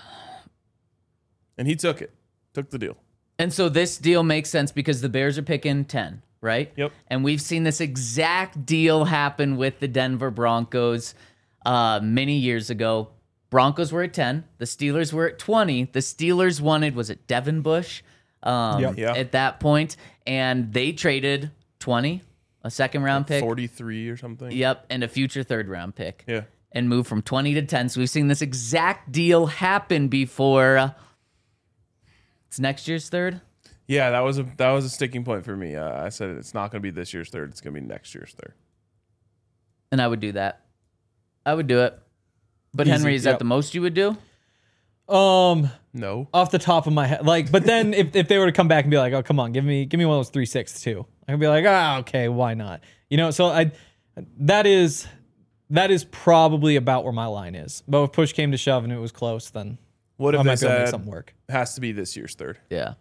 [SPEAKER 2] And he took it, took the deal.
[SPEAKER 1] And so this deal makes sense because the Bears are picking ten, right?
[SPEAKER 2] Yep.
[SPEAKER 1] And we've seen this exact deal happen with the Denver Broncos uh, many years ago. Broncos were at ten. The Steelers were at twenty. The Steelers wanted, was it Devin Bush um,
[SPEAKER 3] Yep.
[SPEAKER 2] Yeah.
[SPEAKER 1] at that point? And they traded twenty, a second round pick.
[SPEAKER 2] forty-three or something.
[SPEAKER 1] Yep, and a future third round pick.
[SPEAKER 2] Yeah.
[SPEAKER 1] And moved from twenty to ten. So we've seen this exact deal happen before. It's next year's third.
[SPEAKER 2] Yeah, that was a that was a sticking point for me. Uh, I said it's not going to be this year's third. It's going to be next year's third.
[SPEAKER 1] And I would do that. I would do it. But
[SPEAKER 3] Easy,
[SPEAKER 1] Henry, is
[SPEAKER 3] yep.
[SPEAKER 1] that the most you would do?
[SPEAKER 3] Um,
[SPEAKER 2] No.
[SPEAKER 3] off the top of my head, like, but then if, if they were to come back and be like, oh, come on, give me give me one of those three six two, I'd be like, ah, okay, why not? You know, so I that is that is probably about where my line is. But if push came to shove and it was close, then
[SPEAKER 2] What
[SPEAKER 3] I
[SPEAKER 2] if they
[SPEAKER 3] might be able to make
[SPEAKER 2] said
[SPEAKER 3] something work.
[SPEAKER 2] has to be this year's third?
[SPEAKER 1] Yeah.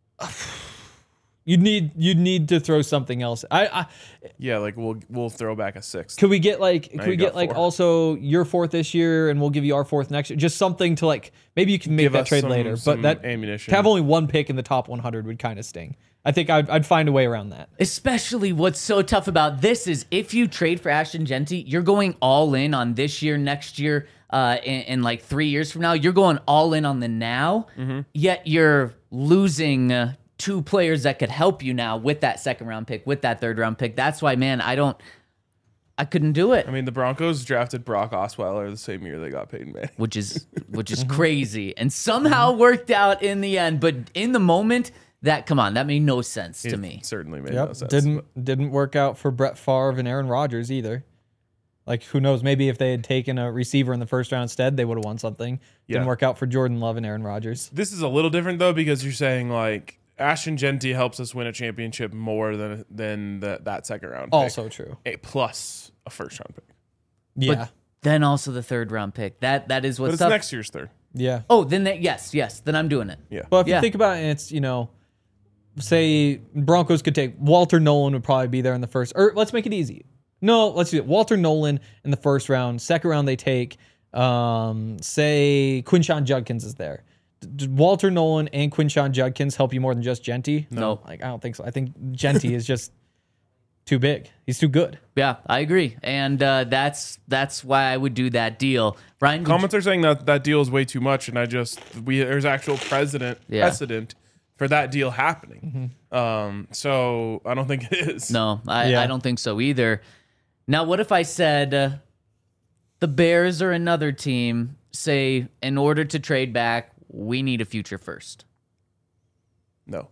[SPEAKER 3] You'd need you'd need to throw something else. I, I
[SPEAKER 2] Yeah, like we'll we'll throw back a sixth.
[SPEAKER 3] could we get like
[SPEAKER 2] Now
[SPEAKER 3] could we
[SPEAKER 2] you
[SPEAKER 3] get
[SPEAKER 2] got
[SPEAKER 3] like
[SPEAKER 2] four.
[SPEAKER 3] also your fourth this year and we'll give you our fourth next year? Just something to like maybe you can make
[SPEAKER 2] Give
[SPEAKER 3] that
[SPEAKER 2] us
[SPEAKER 3] trade
[SPEAKER 2] some-
[SPEAKER 3] later.
[SPEAKER 2] some
[SPEAKER 3] But that
[SPEAKER 2] ammunition.
[SPEAKER 3] to have only one pick in the top one hundred would kind of sting. I think I'd, I'd find a way around that.
[SPEAKER 1] Especially what's so tough about this is if you trade for Ashton Jeanty, you're going all in on this year, next year, uh, in, in like three years from now. You're going all in on the now,
[SPEAKER 2] Mm-hmm.
[SPEAKER 1] yet you're losing uh, two players that could help you now with that second round pick, with that third round pick. That's why, man, I don't, I couldn't do it.
[SPEAKER 2] I mean, the Broncos drafted Brock Osweiler the same year they got Peyton Manning.
[SPEAKER 1] which is which is crazy, and somehow worked out in the end. But in the moment, that come on, that made no sense to
[SPEAKER 2] It
[SPEAKER 1] me.
[SPEAKER 2] certainly made no
[SPEAKER 3] Yep.
[SPEAKER 2] sense.
[SPEAKER 3] Didn't didn't work out for Brett Favre and Aaron Rodgers either. Like who knows? Maybe if they had taken a receiver in the first round instead, they would have won something. Didn't
[SPEAKER 2] Yeah.
[SPEAKER 3] work out for Jordan Love and Aaron Rodgers.
[SPEAKER 2] This is a little different though because you're saying like Ashton Jeanty helps us win a championship more than than the, that second round. Pick.
[SPEAKER 3] Also true.
[SPEAKER 2] A plus a first round pick.
[SPEAKER 3] Yeah.
[SPEAKER 1] But then also the third round pick. That that is
[SPEAKER 2] But
[SPEAKER 1] what's
[SPEAKER 2] it's
[SPEAKER 1] tough.
[SPEAKER 2] next year's third.
[SPEAKER 3] yeah.
[SPEAKER 1] Oh, then that yes, yes. Then I'm doing it.
[SPEAKER 2] Yeah.
[SPEAKER 3] Well, if
[SPEAKER 1] Yeah.
[SPEAKER 3] you think about it, it's, you know, say Broncos could take Walter Nolan would probably be there in the first, or let's make it easy. No, let's do it. Walter Nolan in the first round. Second round, they take, um, say, Quinshawn Judkins is there. D- d- Walter Nolan and Quinshawn Judkins help you more than just Jeanty?
[SPEAKER 1] No.
[SPEAKER 3] Like, I don't think so. I think Jeanty is just too big. He's too good.
[SPEAKER 1] Yeah, I agree, and uh, that's that's why I would do that deal. Brian, would you-
[SPEAKER 2] Comments are saying that that deal is way too much, and I just we there's actual precedent
[SPEAKER 1] Yeah.
[SPEAKER 2] precedent for that deal happening. Um, so I don't think it is.
[SPEAKER 1] no, I,
[SPEAKER 3] Yeah.
[SPEAKER 1] I don't think so either. Now, what if I said uh, the Bears or another team say, in order to trade back, we need a future first?
[SPEAKER 2] No.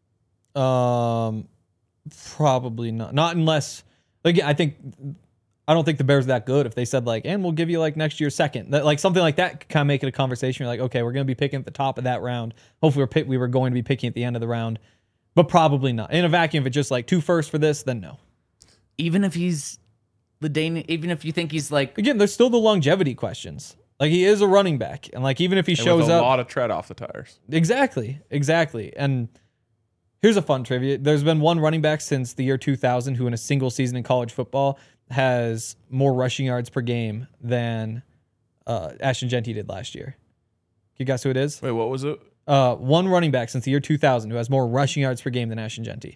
[SPEAKER 3] Um, probably not. Not unless, like, I think, I don't think the Bears are that good. If they said like, and we'll give you like next year's second, that, like something like that, could kind of make it a conversation. You're like, okay, we're going to be picking at the top of that round. Hopefully, we're pick, we were going to be picking at the end of the round, but probably not. In a vacuum, if it's just like two firsts for this, then no.
[SPEAKER 1] Even if he's the Dane, even if you think he's like,
[SPEAKER 3] Again, there's still the longevity questions. Like he is a running back, and like even if he
[SPEAKER 2] And
[SPEAKER 3] shows
[SPEAKER 2] with a
[SPEAKER 3] up,
[SPEAKER 2] lot of tread off the tires.
[SPEAKER 3] Exactly, exactly. And here's a fun trivia. There's been one running back since the year two thousand who in a single season in college football has more rushing yards per game than uh, Ashton Jeanty did last year. Can you guess who it is?
[SPEAKER 2] Wait, what was it?
[SPEAKER 3] Uh, one running back since the year two thousand who has more rushing yards per game than Ashton Jeanty.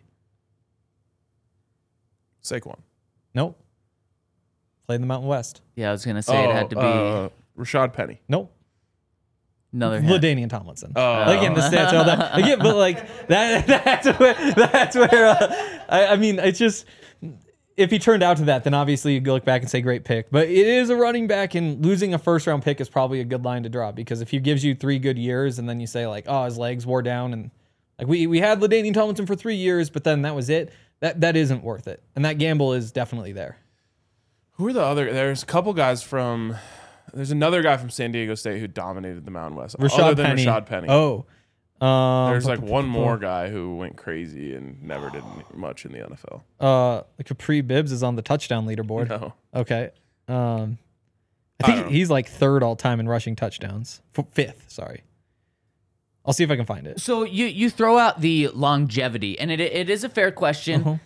[SPEAKER 2] Saquon.
[SPEAKER 3] Nope. Played in the Mountain West.
[SPEAKER 1] yeah, I was gonna say it had to be.
[SPEAKER 2] uh, Rashad Penny.
[SPEAKER 3] Nope.
[SPEAKER 1] Another hint.
[SPEAKER 3] LaDainian Tomlinson.
[SPEAKER 2] Oh.
[SPEAKER 3] Again,
[SPEAKER 1] Uh,
[SPEAKER 3] the stats all that.
[SPEAKER 1] Another hint.
[SPEAKER 3] LaDainian Tomlinson.
[SPEAKER 2] Oh.
[SPEAKER 3] Again, the stats all that. Again, but like that. That's where. That's where. Uh, I, I mean, it's just. If he turned out to that, then obviously you go look back and say great pick. But it is a running back, and losing a first round pick is probably a good line to draw, because if he gives you three good years and then you say like, oh, his legs wore down, and like we we had LaDainian Tomlinson for three years, but then that was it. That that isn't worth it, and that gamble is definitely there.
[SPEAKER 2] Who are the other? There's a couple guys from. There's another guy from San Diego State who dominated the Mountain West.
[SPEAKER 3] Rashad
[SPEAKER 2] other than
[SPEAKER 3] Penny.
[SPEAKER 2] Rashad Penny.
[SPEAKER 3] Oh, um,
[SPEAKER 2] There's like one more guy who went crazy and never did much in the N F L.
[SPEAKER 3] Uh, Capri Bibbs is on the touchdown leaderboard.
[SPEAKER 2] No.
[SPEAKER 3] Okay. Um, I
[SPEAKER 2] I
[SPEAKER 3] think
[SPEAKER 2] don't know.
[SPEAKER 3] he's like third all time in rushing touchdowns. F- fifth, sorry. I'll see if I can find it.
[SPEAKER 1] So you you throw out the longevity, and it it is a fair question.
[SPEAKER 3] Uh-huh.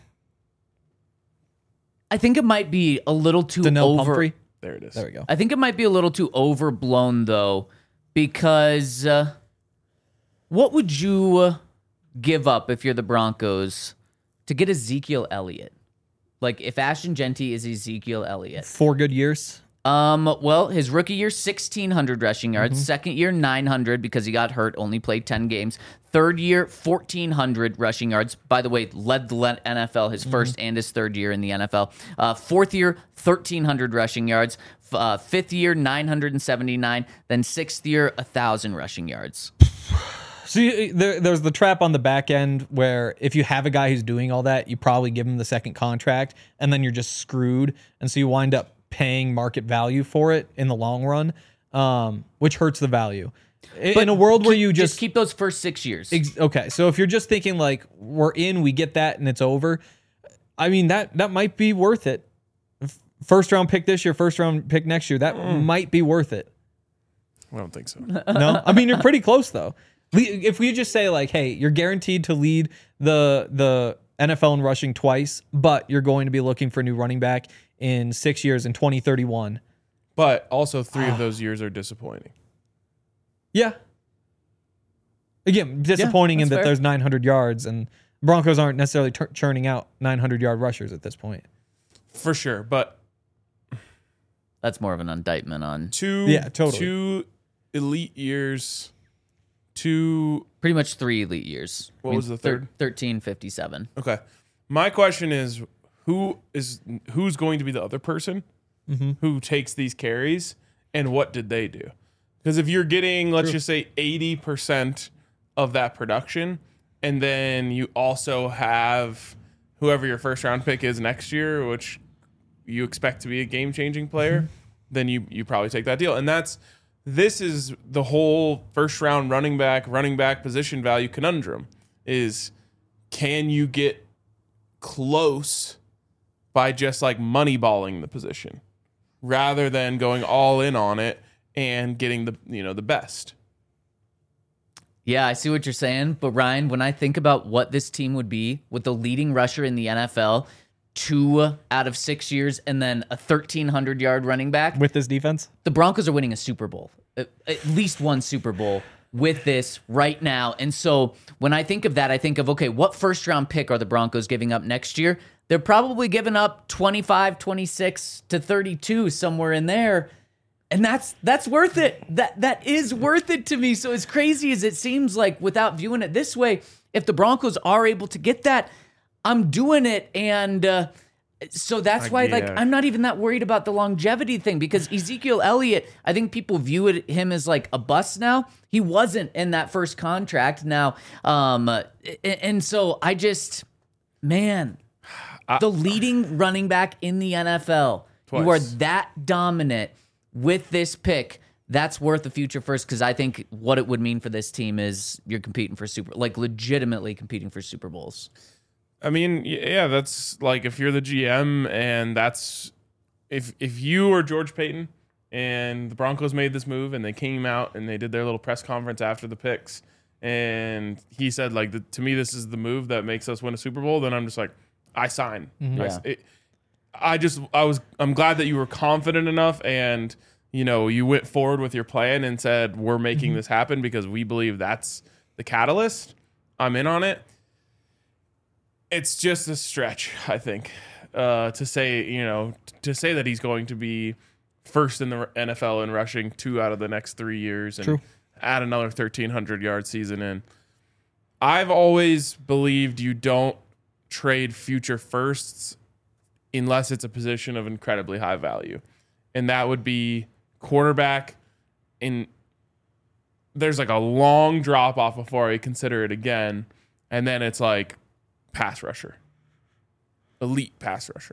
[SPEAKER 1] I think it might be a little too
[SPEAKER 3] Donnell
[SPEAKER 1] over.
[SPEAKER 3] Pumphrey.
[SPEAKER 2] There it is.
[SPEAKER 3] There we go.
[SPEAKER 1] I think it might be a little too overblown though, because uh, what would you uh, give up if you're the Broncos to get Ezekiel Elliott? Like if Ashton Jeanty is Ezekiel Elliott.
[SPEAKER 3] Four good years.
[SPEAKER 1] Um, well, his rookie year, sixteen hundred rushing yards. Second year, nine hundred because he got hurt, only played ten games. Third year, fourteen hundred rushing yards. By the way, led the le- N F L his first and his third year in the N F L. Uh, fourth year, thirteen hundred rushing yards. F- Uh, fifth year, nine hundred seventy-nine. Then sixth year, one thousand rushing yards.
[SPEAKER 3] See, there, there's the trap on the back end where if you have a guy who's doing all that, you probably give him the second contract, and then you're just screwed. And so you wind up paying market value for it in the long run, um, which hurts the value. In, in a world where
[SPEAKER 1] Keep-
[SPEAKER 3] you just,
[SPEAKER 1] keep those first six years.
[SPEAKER 3] ex- okay, so if you're just thinking like we're in, we get that, and it's over. I mean that that might be worth it. F- First round pick this year, first round pick next year, that might be worth it.
[SPEAKER 2] I don't think so.
[SPEAKER 3] No, I mean you're pretty close though. We, if we just say like, hey, you're guaranteed to lead the the N F L in rushing twice, but you're going to be looking for a new running back in six years in twenty thirty-one.
[SPEAKER 2] But also three of those years are disappointing.
[SPEAKER 3] Yeah. Again, disappointing
[SPEAKER 1] Yeah,
[SPEAKER 3] in
[SPEAKER 1] that's
[SPEAKER 3] that
[SPEAKER 1] fair.
[SPEAKER 3] there's nine hundred yards, and Broncos aren't necessarily tur churning out nine hundred yard rushers at this point.
[SPEAKER 2] For sure. But
[SPEAKER 1] That's more of an indictment on
[SPEAKER 2] two,
[SPEAKER 3] Yeah, totally.
[SPEAKER 2] two elite years, two.
[SPEAKER 1] pretty much three elite years.
[SPEAKER 2] What was the third?
[SPEAKER 1] thirteen fifty-seven.
[SPEAKER 2] Okay. My question is who is who's going to be the other person
[SPEAKER 3] Mm-hmm.
[SPEAKER 2] who takes these carries, and what did they do? Because if you're getting, let's just say, eighty percent of that production, and then you also have whoever your first round pick is next year, which you expect to be a game changing player, then you you probably take that deal. And that's this is the whole first round running back, running back position value conundrum is, can you get close by just like moneyballing the position rather than going all in on it and getting the, you know, the best?
[SPEAKER 1] Yeah, I see what you're saying. But Ryan, when I think about what this team would be with the leading rusher in the N F L, two out of six years, and then a thirteen hundred yard running back,
[SPEAKER 3] With this defense?
[SPEAKER 1] the Broncos are winning a Super Bowl, at at least one Super Bowl with this right now. And so when I think of that, I think of, okay, what first round pick are the Broncos giving up next year? They're probably giving up twenty-five, twenty-six to thirty-two, somewhere in there. And that's that's worth it. That that is worth it to me. So as crazy as it seems, like without viewing it this way, if the Broncos are able to get that, I'm doing it. And uh, so that's why, like,
[SPEAKER 2] yeah.
[SPEAKER 1] I'm not even that worried about the longevity thing, because Ezekiel Elliott, I think people view it, him as like a bust now. He wasn't in that first contract now. Um, and, and so I just, man, the leading running back in the N F L, you are
[SPEAKER 2] Twice.
[SPEAKER 1] that dominant with this pick. That's worth the future first, because I think what it would mean for this team is you're competing for super, like legitimately competing for Super Bowls.
[SPEAKER 2] I mean, y- yeah, that's like if you're the G M and that's if if you or George Payton and the Broncos made this move and they came out and they did their little press conference after the picks and he said like the, to me this is the move that makes us win a Super Bowl, then I'm just like I sign. I,
[SPEAKER 1] Yeah.
[SPEAKER 2] s- it- I just I was I'm glad that you were confident enough and you know you went forward with your plan and said we're making this happen because we believe that's the catalyst. I'm in on it. It's just a stretch, I think, uh, to say, you know, to say that he's going to be first in the N F L in rushing two out of the next three years and
[SPEAKER 3] True.
[SPEAKER 2] add another thirteen hundred yard season in. I've always believed you don't trade future firsts unless it's a position of incredibly high value. And that would be quarterback. In there's like a long drop off before I consider it again. And then it's like pass rusher. Elite pass rusher.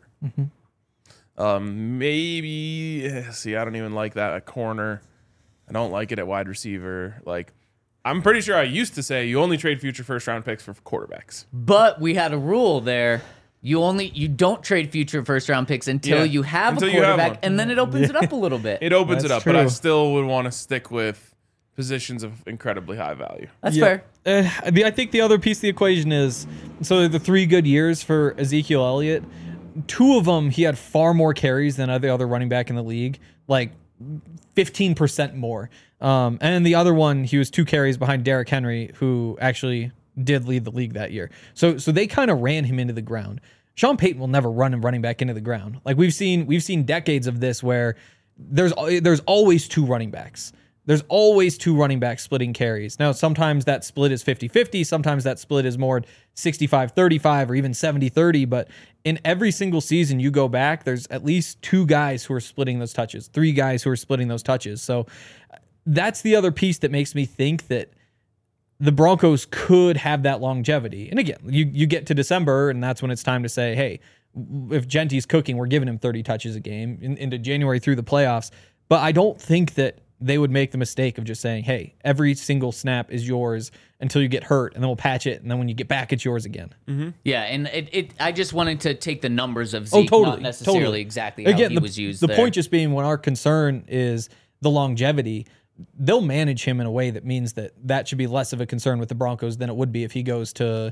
[SPEAKER 2] Mm-hmm. Um, maybe, see, I don't even like that at corner. I don't like it at wide receiver. Like, I'm pretty sure I used to say you only trade future first round picks for quarterbacks.
[SPEAKER 1] But we had a rule there. You only you don't trade future first round picks until
[SPEAKER 2] Yeah,
[SPEAKER 1] you have
[SPEAKER 2] until
[SPEAKER 1] a
[SPEAKER 2] you have
[SPEAKER 1] quarterback,
[SPEAKER 2] one.
[SPEAKER 1] and then it opens it up a little bit.
[SPEAKER 2] It opens
[SPEAKER 3] That's
[SPEAKER 2] it up, but I
[SPEAKER 3] true.
[SPEAKER 2] still would want to stick with positions of incredibly high value.
[SPEAKER 1] That's
[SPEAKER 3] Yeah.
[SPEAKER 1] fair.
[SPEAKER 3] Uh, the, I think the other piece of the equation is so the three good years for Ezekiel Elliott. Two of them, he had far more carries than every other running back in the league, like fifteen percent more. Um, and the other one, he was two carries behind Derrick Henry, who actually did lead the league that year. So, so they kind of ran him into the ground. Sean Payton will never run him running back into the ground. Like we've seen, we've seen decades of this where there's there's always two running backs. There's always two running backs splitting carries. Now, sometimes that split is fifty-fifty. Sometimes that split is more sixty-five thirty-five or even seventy thirty. But in every single season you go back, there's at least two guys who are splitting those touches, three guys who are splitting those touches. So that's the other piece that makes me think that the Broncos could have that longevity. And again, you, you get to December, and that's when it's time to say, hey, if Genty's cooking, we're giving him thirty touches a game in, into January through the playoffs. But I don't think that they would make the mistake of just saying, hey, every single snap is yours until you get hurt, and then we'll patch it, and then when you get back, it's yours again.
[SPEAKER 2] Mm-hmm.
[SPEAKER 1] Yeah, and it, it I just wanted to take the numbers of
[SPEAKER 3] Oh,
[SPEAKER 1] Zeke,
[SPEAKER 3] totally.
[SPEAKER 1] not necessarily
[SPEAKER 3] totally.
[SPEAKER 1] exactly how
[SPEAKER 3] Again,
[SPEAKER 1] he
[SPEAKER 3] the,
[SPEAKER 1] was used
[SPEAKER 3] The
[SPEAKER 1] there.
[SPEAKER 3] point just being when our concern is the longevity, they'll manage him in a way that means that that should be less of a concern with the Broncos than it would be if he goes to,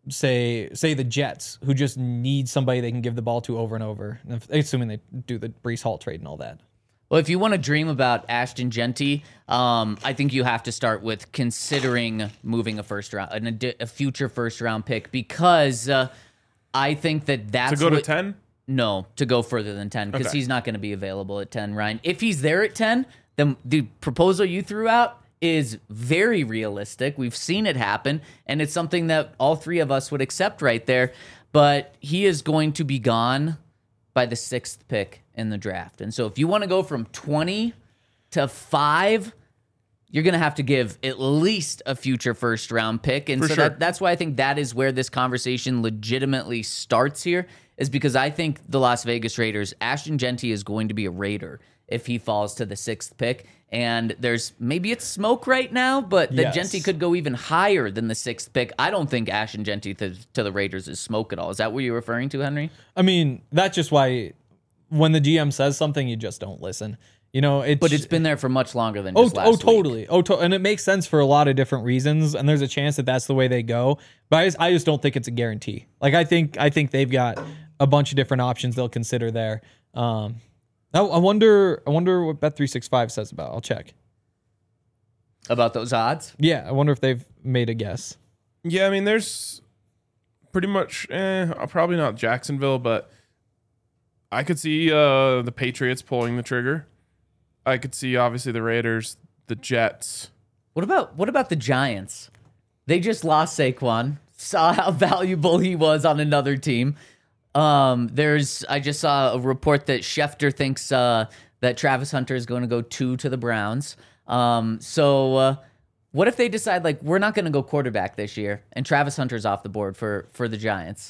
[SPEAKER 3] say, say the Jets, who just need somebody they can give the ball to over and over, assuming they do the Breece Hall trade and all that.
[SPEAKER 1] Well, if you want to dream about Ashton Genty, um, I think you have to start with considering moving a first round, an adi- a future first round pick, because uh, I think that that's
[SPEAKER 2] To go to
[SPEAKER 1] what-
[SPEAKER 2] ten?
[SPEAKER 1] No, to go further than ten, because
[SPEAKER 2] Okay.
[SPEAKER 1] he's not going to be available at ten, Ryan. If he's there at ten, then the proposal you threw out is very realistic. We've seen it happen, and it's something that all three of us would accept right there. But he is going to be gone by the sixth pick in the draft. And so if you want to go from twenty to five, you're going to have to give at least a future first round pick. And
[SPEAKER 2] For
[SPEAKER 1] so
[SPEAKER 2] sure.
[SPEAKER 1] that, that's why I think that is where this conversation legitimately starts here, is because I think the Las Vegas Raiders, Ashton Genty is going to be a Raider if he falls to the sixth pick. And there's maybe it's smoke right now, but the
[SPEAKER 3] Yes.
[SPEAKER 1] Genty could go even higher than the sixth pick. I don't think Ashton Genty to, to the Raiders is smoke at all. Is that what you're referring to, Henry?
[SPEAKER 3] I mean, that's just why when the G M says something, you just don't listen. You know, it's
[SPEAKER 1] But it's been there for much longer than
[SPEAKER 3] oh,
[SPEAKER 1] just last
[SPEAKER 3] oh,
[SPEAKER 1] week.
[SPEAKER 3] totally, oh, to- and it makes sense for a lot of different reasons. And there's a chance that that's the way they go. But I just, I just don't think it's a guarantee. Like I think, I think they've got a bunch of different options they'll consider there. Um, I, I wonder, I wonder what Bet three sixty-five says about. I'll check.
[SPEAKER 1] About those odds?
[SPEAKER 3] Yeah, I wonder if they've made a guess.
[SPEAKER 2] Yeah, I mean, there's pretty much, eh, probably not Jacksonville, but I could see uh, the Patriots pulling the trigger. I could see, obviously, the Raiders, the Jets.
[SPEAKER 1] What about what about the Giants? They just lost Saquon. Saw how valuable he was on another team. Um, there's I just saw a report that Schefter thinks uh, that Travis Hunter is going to go two to the Browns. Um, so uh, what if they decide like we're not going to go quarterback this year and Travis Hunter's off the board for for the Giants?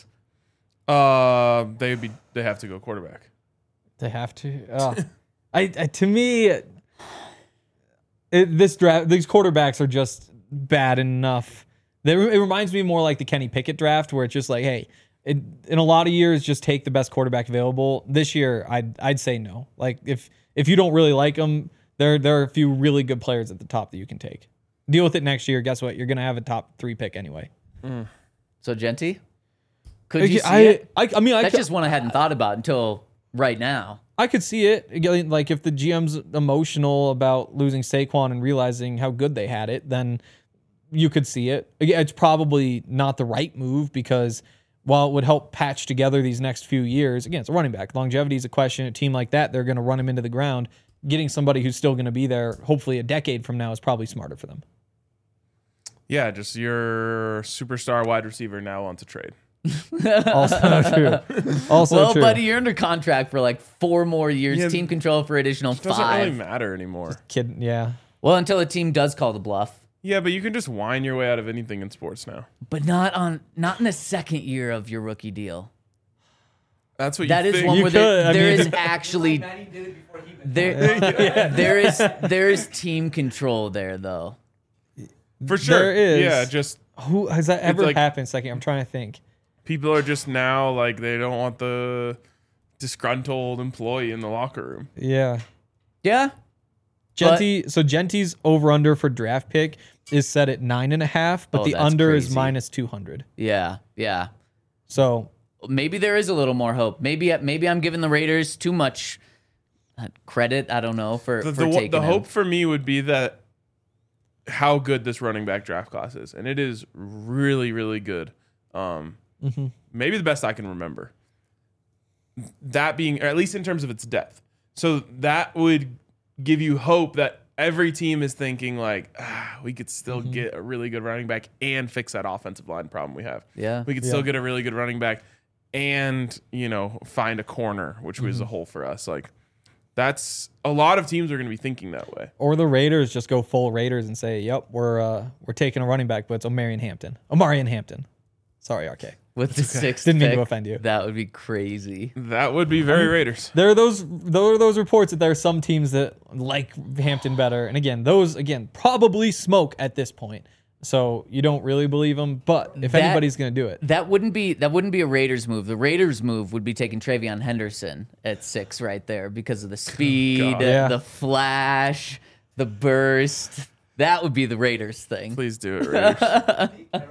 [SPEAKER 2] Uh, they'd be they have to go quarterback.
[SPEAKER 3] They have to. Oh. I, I to me, it, this draft, these quarterbacks are just bad enough. They, it reminds me more like the Kenny Pickett draft, where it's just like, hey, it, in a lot of years, just take the best quarterback available. This year, I'd I'd say no. Like if if you don't really like them, there there are a few really good players at the top that you can take. Deal with it next year. Guess what? You're gonna have a top three pick anyway.
[SPEAKER 1] So Genty, could you see
[SPEAKER 3] I,
[SPEAKER 1] it?
[SPEAKER 3] I I mean, I
[SPEAKER 1] That's
[SPEAKER 3] could-
[SPEAKER 1] just one I hadn't thought about until right now.
[SPEAKER 3] I could see it. Again, like if the G M's emotional about losing Saquon and realizing how good they had it, then you could see it. Again, it's probably not the right move because while it would help patch together these next few years, again, it's a running back. Longevity is a question. A team like that, they're going to run him into the ground. Getting somebody who's still going to be there, hopefully a decade from now, is probably smarter for them.
[SPEAKER 2] Yeah, just your superstar wide receiver now wants a trade.
[SPEAKER 3] Also true. Also
[SPEAKER 1] well,
[SPEAKER 3] true.
[SPEAKER 1] buddy, you're under contract for like four more years.
[SPEAKER 2] Yeah,
[SPEAKER 1] team control for additional
[SPEAKER 2] It doesn't
[SPEAKER 1] five.
[SPEAKER 2] really matter anymore.
[SPEAKER 3] Kid, yeah.
[SPEAKER 1] Well, until a team does call the bluff,
[SPEAKER 2] Yeah, but you can just whine your way out of anything in sports now.
[SPEAKER 1] but not on not in the second year of your rookie deal.
[SPEAKER 2] That's what
[SPEAKER 1] That
[SPEAKER 2] you
[SPEAKER 1] is
[SPEAKER 2] think.
[SPEAKER 1] one
[SPEAKER 3] You
[SPEAKER 1] where
[SPEAKER 3] could,
[SPEAKER 1] there,
[SPEAKER 3] I
[SPEAKER 1] there
[SPEAKER 3] mean-
[SPEAKER 1] is actually there, there is there is team control there though.
[SPEAKER 2] For sure.
[SPEAKER 3] There is.
[SPEAKER 2] Yeah, just
[SPEAKER 3] Who has that ever
[SPEAKER 2] like-
[SPEAKER 3] happened? Second, I'm trying to think.
[SPEAKER 2] people are just now like they don't want the disgruntled employee in the locker room.
[SPEAKER 3] Yeah.
[SPEAKER 1] Yeah,
[SPEAKER 3] Genty, so Genty's over under for draft pick is set at nine and a half, but
[SPEAKER 1] Oh,
[SPEAKER 3] the
[SPEAKER 1] that's
[SPEAKER 3] under is
[SPEAKER 1] crazy.
[SPEAKER 3] minus two hundred.
[SPEAKER 1] yeah, yeah.
[SPEAKER 3] So
[SPEAKER 1] Maybe there is a little more hope. Maybe maybe I'm giving the Raiders too much uh, credit. I don't know for
[SPEAKER 2] The,
[SPEAKER 1] for
[SPEAKER 2] the,
[SPEAKER 1] taking
[SPEAKER 2] the
[SPEAKER 1] him.
[SPEAKER 2] hope for me would be that how good this running back draft class is, and it is really, really good. Um,
[SPEAKER 3] Mm-hmm.
[SPEAKER 2] Maybe the best I can remember. That being, or at least in terms of its depth, so that would give you hope that every team is thinking like, ah, we could still
[SPEAKER 3] Mm-hmm.
[SPEAKER 2] get a really good running back and fix that offensive line problem we have.
[SPEAKER 1] Yeah.
[SPEAKER 2] We could
[SPEAKER 3] Yeah.
[SPEAKER 2] still get a really good running back and, you know, find a corner, which was a
[SPEAKER 3] Mm-hmm.
[SPEAKER 2] hole for us. Like, that's a lot of teams are going to be thinking that way.
[SPEAKER 3] or the Raiders just go full Raiders and say, "Yep, we're uh, we're taking a running back, but it's Omarion Hampton." Omarion Hampton. Sorry, R K.
[SPEAKER 1] with the sixth
[SPEAKER 3] Didn't mean
[SPEAKER 1] pick.
[SPEAKER 3] to offend you.
[SPEAKER 1] That would be crazy.
[SPEAKER 2] That would be very Raiders.
[SPEAKER 3] There are those there are those reports that there are some teams that like Hampton better, and again, those again probably smoke at this point. So you don't really believe them, but if
[SPEAKER 1] That-
[SPEAKER 3] anybody's going to do it,
[SPEAKER 1] That wouldn't be that wouldn't be a Raiders move. The Raiders move would be taking Travion Henderson at six right there because of the speed,
[SPEAKER 2] God.
[SPEAKER 3] Yeah.
[SPEAKER 1] the flash, the burst. That would be the Raiders thing.
[SPEAKER 2] Please do it, Raiders.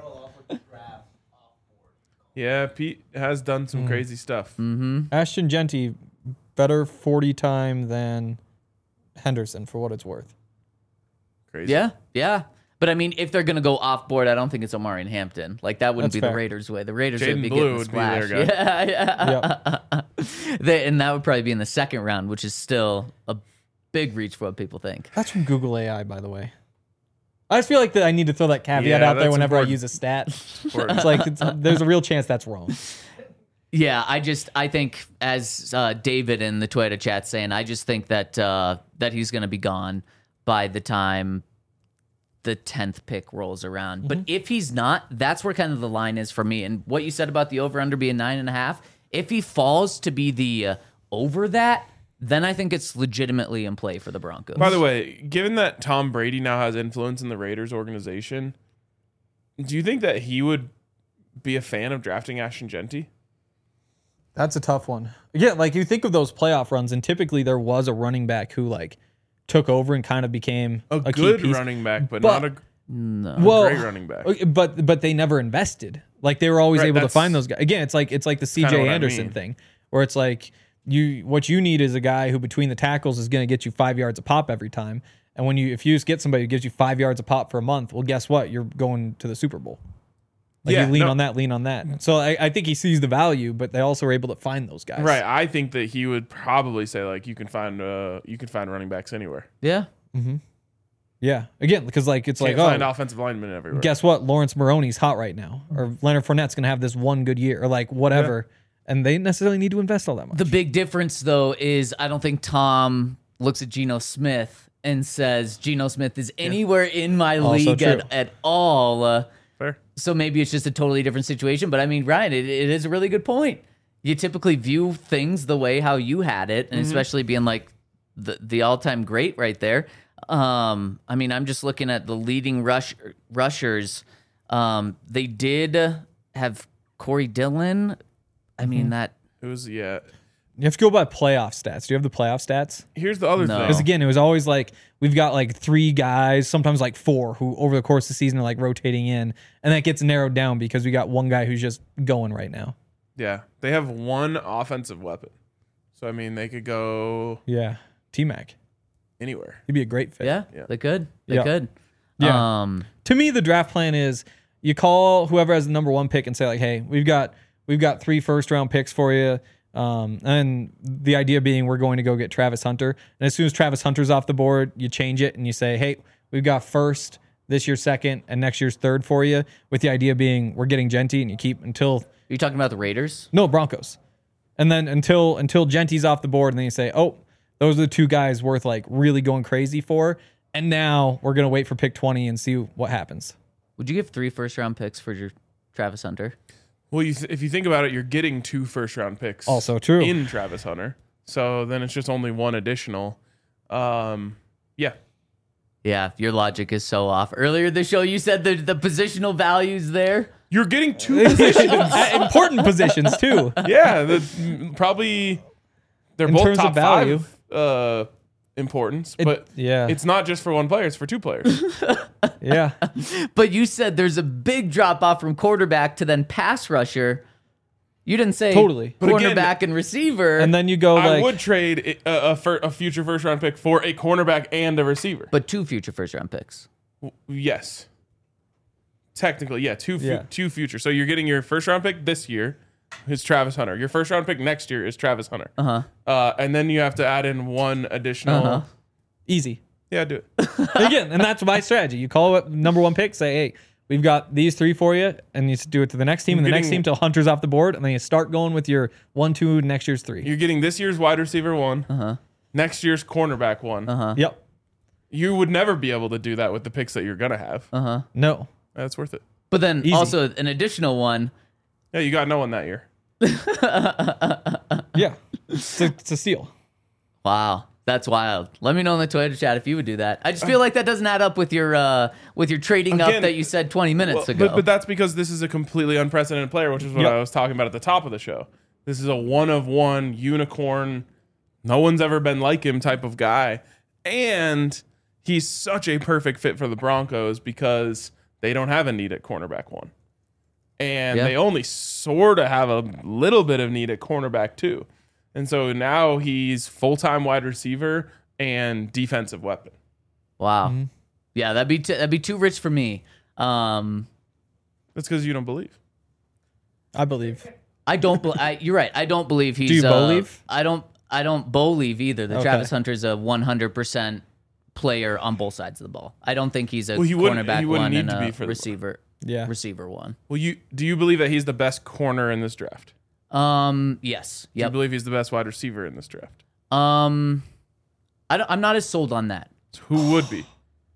[SPEAKER 2] Yeah, Pete has done some crazy stuff.
[SPEAKER 3] Ashton Genty better forty time than Henderson for what it's worth.
[SPEAKER 2] Crazy.
[SPEAKER 1] Yeah, yeah. But I mean, if they're gonna go off board, I don't think it's Omarion Hampton. Like that wouldn't
[SPEAKER 3] That's
[SPEAKER 1] be
[SPEAKER 3] fair.
[SPEAKER 1] the Raiders' way. The Raiders
[SPEAKER 2] Jaden
[SPEAKER 1] would be
[SPEAKER 2] Blue
[SPEAKER 1] getting the
[SPEAKER 2] would be
[SPEAKER 1] splash.
[SPEAKER 2] their guy.
[SPEAKER 1] Yeah, yeah.
[SPEAKER 3] Yep.
[SPEAKER 1] They- and that would probably be in the second round, which is still a big reach for what people think.
[SPEAKER 3] That's from Google A I, by the way. I just feel like that I need to throw that caveat
[SPEAKER 2] Yeah,
[SPEAKER 3] out there
[SPEAKER 2] that's
[SPEAKER 3] whenever
[SPEAKER 2] important.
[SPEAKER 3] I use a stat.
[SPEAKER 2] Important.
[SPEAKER 3] It's like it's, there's a real chance that's wrong.
[SPEAKER 1] Yeah, I just I think as uh, David in the Twitter chat saying, I just think that uh, that he's going to be gone by the time the tenth pick rolls around. But if he's not, that's where kind of the line is for me. And what you said about the over under being nine and a half, if he falls to be the uh, over that, then I think it's legitimately in play for the Broncos.
[SPEAKER 2] By the way, given that Tom Brady now has influence in the Raiders organization, do you think that he would be a fan of drafting Ashton Genty?
[SPEAKER 3] That's a tough one. Yeah, like you think of those playoff runs, and typically there was a running back who like took over and kind of became
[SPEAKER 2] A,
[SPEAKER 3] a,
[SPEAKER 2] good
[SPEAKER 3] key piece.
[SPEAKER 2] running back, but,
[SPEAKER 3] But-
[SPEAKER 2] not a,
[SPEAKER 1] no.
[SPEAKER 2] a
[SPEAKER 3] Well,
[SPEAKER 2] great running back.
[SPEAKER 3] Okay, But but they never invested. Like they were always
[SPEAKER 2] Right,
[SPEAKER 3] able to
[SPEAKER 2] that's
[SPEAKER 3] find those guys. Again, it's like it's like the
[SPEAKER 2] kinda
[SPEAKER 3] C J
[SPEAKER 2] what I
[SPEAKER 3] Anderson
[SPEAKER 2] mean.
[SPEAKER 3] thing, where it's like you what you need is a guy who between the tackles is going to get you five yards a pop every time. And when you if you just get somebody who gives you five yards a pop for a month, well, guess what? You're going to the Super Bowl. Like
[SPEAKER 2] Yeah,
[SPEAKER 3] you lean
[SPEAKER 2] no.
[SPEAKER 3] on that, lean on that. So I, I think he sees the value, but they also are able to find those guys.
[SPEAKER 2] Right. I think that he would probably say like you can find uh you can find running backs anywhere.
[SPEAKER 1] yeah.
[SPEAKER 3] Yeah. Again, because like it's
[SPEAKER 2] Can't
[SPEAKER 3] like
[SPEAKER 2] find
[SPEAKER 3] oh,
[SPEAKER 2] offensive linemen everywhere.
[SPEAKER 3] guess what? Lawrence Maroney's hot right now, or Leonard Fournette's going to have this one good year, or like whatever. And they necessarily need to invest all that much.
[SPEAKER 1] The big difference, though, is I don't think Tom looks at Geno Smith and says Geno Smith is anywhere in my
[SPEAKER 3] Also
[SPEAKER 1] league
[SPEAKER 3] true.
[SPEAKER 1] at, at all. Uh,
[SPEAKER 2] Fair.
[SPEAKER 1] so maybe it's just a totally different situation. But I mean, Ryan, it, it is a really good point. You typically view things the way how you had it, and especially being like the the all time great right there. Um, I mean, I'm just looking at the leading rush rushers. Um, they did have Corey Dillon. I mean that.
[SPEAKER 2] It was yeah.
[SPEAKER 3] You have to go by playoff stats. Do you have the playoff stats?
[SPEAKER 2] Here's the other
[SPEAKER 1] No.
[SPEAKER 2] thing.
[SPEAKER 3] Because again, it was always like we've got like three guys, sometimes like four, who over the course of the season are like rotating in, and that gets narrowed down because we got one guy who's just going right now.
[SPEAKER 2] Yeah. They have one offensive weapon. So I mean they could go
[SPEAKER 3] Yeah, T Mac,
[SPEAKER 2] anywhere.
[SPEAKER 3] he'd be a great fit.
[SPEAKER 1] Yeah,
[SPEAKER 2] Yeah.
[SPEAKER 1] they could. They
[SPEAKER 3] Yeah.
[SPEAKER 1] could.
[SPEAKER 3] Yeah.
[SPEAKER 1] Um,
[SPEAKER 3] To me, the draft plan is you call whoever has the number one pick and say like, hey, we've got we've got three first round picks for you. Um, and the idea being we're going to go get Travis Hunter. And as soon as Travis Hunter's off the board, you change it and you say, hey, we've got first, this year's second, and next year's third for you, with the idea being we're getting Genty, and you keep until...
[SPEAKER 1] Are you talking about the Raiders?
[SPEAKER 3] No, Broncos. And then until until Genty's off the board, and then you say, oh, those are the two guys worth like really going crazy for. And now we're going to wait for pick twenty and see what happens.
[SPEAKER 1] Would you give three first round picks for your Travis Hunter?
[SPEAKER 2] Well, you th- if you think about it, you're getting two first round picks.
[SPEAKER 3] Also true.
[SPEAKER 2] In Travis Hunter. So then it's just only one additional. Um, yeah.
[SPEAKER 1] Yeah, your logic is so off. Earlier this show, you said the, the positional values there.
[SPEAKER 2] You're getting two positions.
[SPEAKER 3] At important positions, too.
[SPEAKER 2] Yeah, the, probably they're
[SPEAKER 3] In
[SPEAKER 2] both
[SPEAKER 3] terms
[SPEAKER 2] top
[SPEAKER 3] of value.
[SPEAKER 2] five uh, importance,
[SPEAKER 3] It-
[SPEAKER 2] but
[SPEAKER 3] yeah.
[SPEAKER 2] it's not just for one player; it's for two players.
[SPEAKER 3] Yeah.
[SPEAKER 1] But you said there's a big drop off from quarterback to then pass rusher. You didn't say
[SPEAKER 3] Totally.
[SPEAKER 2] But again-
[SPEAKER 1] cornerback and receiver.
[SPEAKER 3] And then you go
[SPEAKER 2] I
[SPEAKER 3] like...
[SPEAKER 2] would trade a, a, fir- a future first round pick for a cornerback and a receiver.
[SPEAKER 1] but two future first round picks.
[SPEAKER 2] Yes, technically, yeah, two fu-
[SPEAKER 3] Yeah.
[SPEAKER 2] two future. So you're getting your first round pick this year is Travis Hunter. Your first round pick next year is Travis Hunter.
[SPEAKER 1] Uh-huh.
[SPEAKER 2] Uh, and then you have to add in one additional.
[SPEAKER 1] Uh-huh.
[SPEAKER 3] Easy.
[SPEAKER 2] Yeah, do it.
[SPEAKER 3] Again, and that's my strategy. You call it number one pick, say, hey, we've got these three for you, and you do it to the next team, and the next
[SPEAKER 2] getting-
[SPEAKER 3] team till Hunter's off the board, and then you start going with your one, two, next year's three.
[SPEAKER 2] You're getting this year's wide receiver one,
[SPEAKER 1] Uh-huh.
[SPEAKER 2] next year's cornerback one.
[SPEAKER 1] Uh-huh.
[SPEAKER 3] Yep.
[SPEAKER 2] You would never be able to do that with the picks that you're gonna have.
[SPEAKER 1] Uh-huh.
[SPEAKER 3] No.
[SPEAKER 2] That's worth it.
[SPEAKER 1] But then
[SPEAKER 3] Easy.
[SPEAKER 1] also an additional one.
[SPEAKER 2] Yeah, you got no one that year.
[SPEAKER 3] Yeah. It's a, it's a steal.
[SPEAKER 1] Wow. That's wild. Let me know in the Twitter chat if you would do that. I just feel like that doesn't add up with your uh, with your trading up
[SPEAKER 2] Again,
[SPEAKER 1] that you said twenty minutes
[SPEAKER 2] Well,
[SPEAKER 1] ago.
[SPEAKER 2] But, but that's because this is a completely unprecedented player, which is what
[SPEAKER 3] Yep.
[SPEAKER 2] I was talking about at the top of the show. This is a one of one unicorn. No one's ever been like him type of guy. And he's such a perfect fit for the Broncos because they don't have a need at cornerback one. And
[SPEAKER 1] Yeah.
[SPEAKER 2] they only sort of have a little bit of need at cornerback two. And so now he's full-time wide receiver and defensive weapon.
[SPEAKER 1] wow.
[SPEAKER 3] Mm-hmm.
[SPEAKER 1] Yeah, that'd be t- that'd be too rich for me. Um,
[SPEAKER 2] That's because you don't believe.
[SPEAKER 3] I believe.
[SPEAKER 1] I don't. Be- I, you're right. I don't believe he's.
[SPEAKER 3] Do you
[SPEAKER 1] uh,
[SPEAKER 3] believe?
[SPEAKER 1] I don't. I don't believe either that
[SPEAKER 3] Okay.
[SPEAKER 1] Travis Hunter's a one hundred percent player on both sides of the ball. I don't think he's a
[SPEAKER 2] Well, he wouldn't-
[SPEAKER 1] cornerback
[SPEAKER 2] he wouldn't
[SPEAKER 1] one
[SPEAKER 2] need
[SPEAKER 1] and
[SPEAKER 2] to
[SPEAKER 1] a
[SPEAKER 2] be for the-
[SPEAKER 1] receiver.
[SPEAKER 3] Yeah.
[SPEAKER 1] Receiver one.
[SPEAKER 2] Well, you do you believe that he's the best corner in this draft?
[SPEAKER 1] Um. Yes.
[SPEAKER 2] Do you
[SPEAKER 1] Yep.
[SPEAKER 2] believe he's the best wide receiver in this draft?
[SPEAKER 1] Um. I don't, I'm not as sold on that.
[SPEAKER 2] So who would be?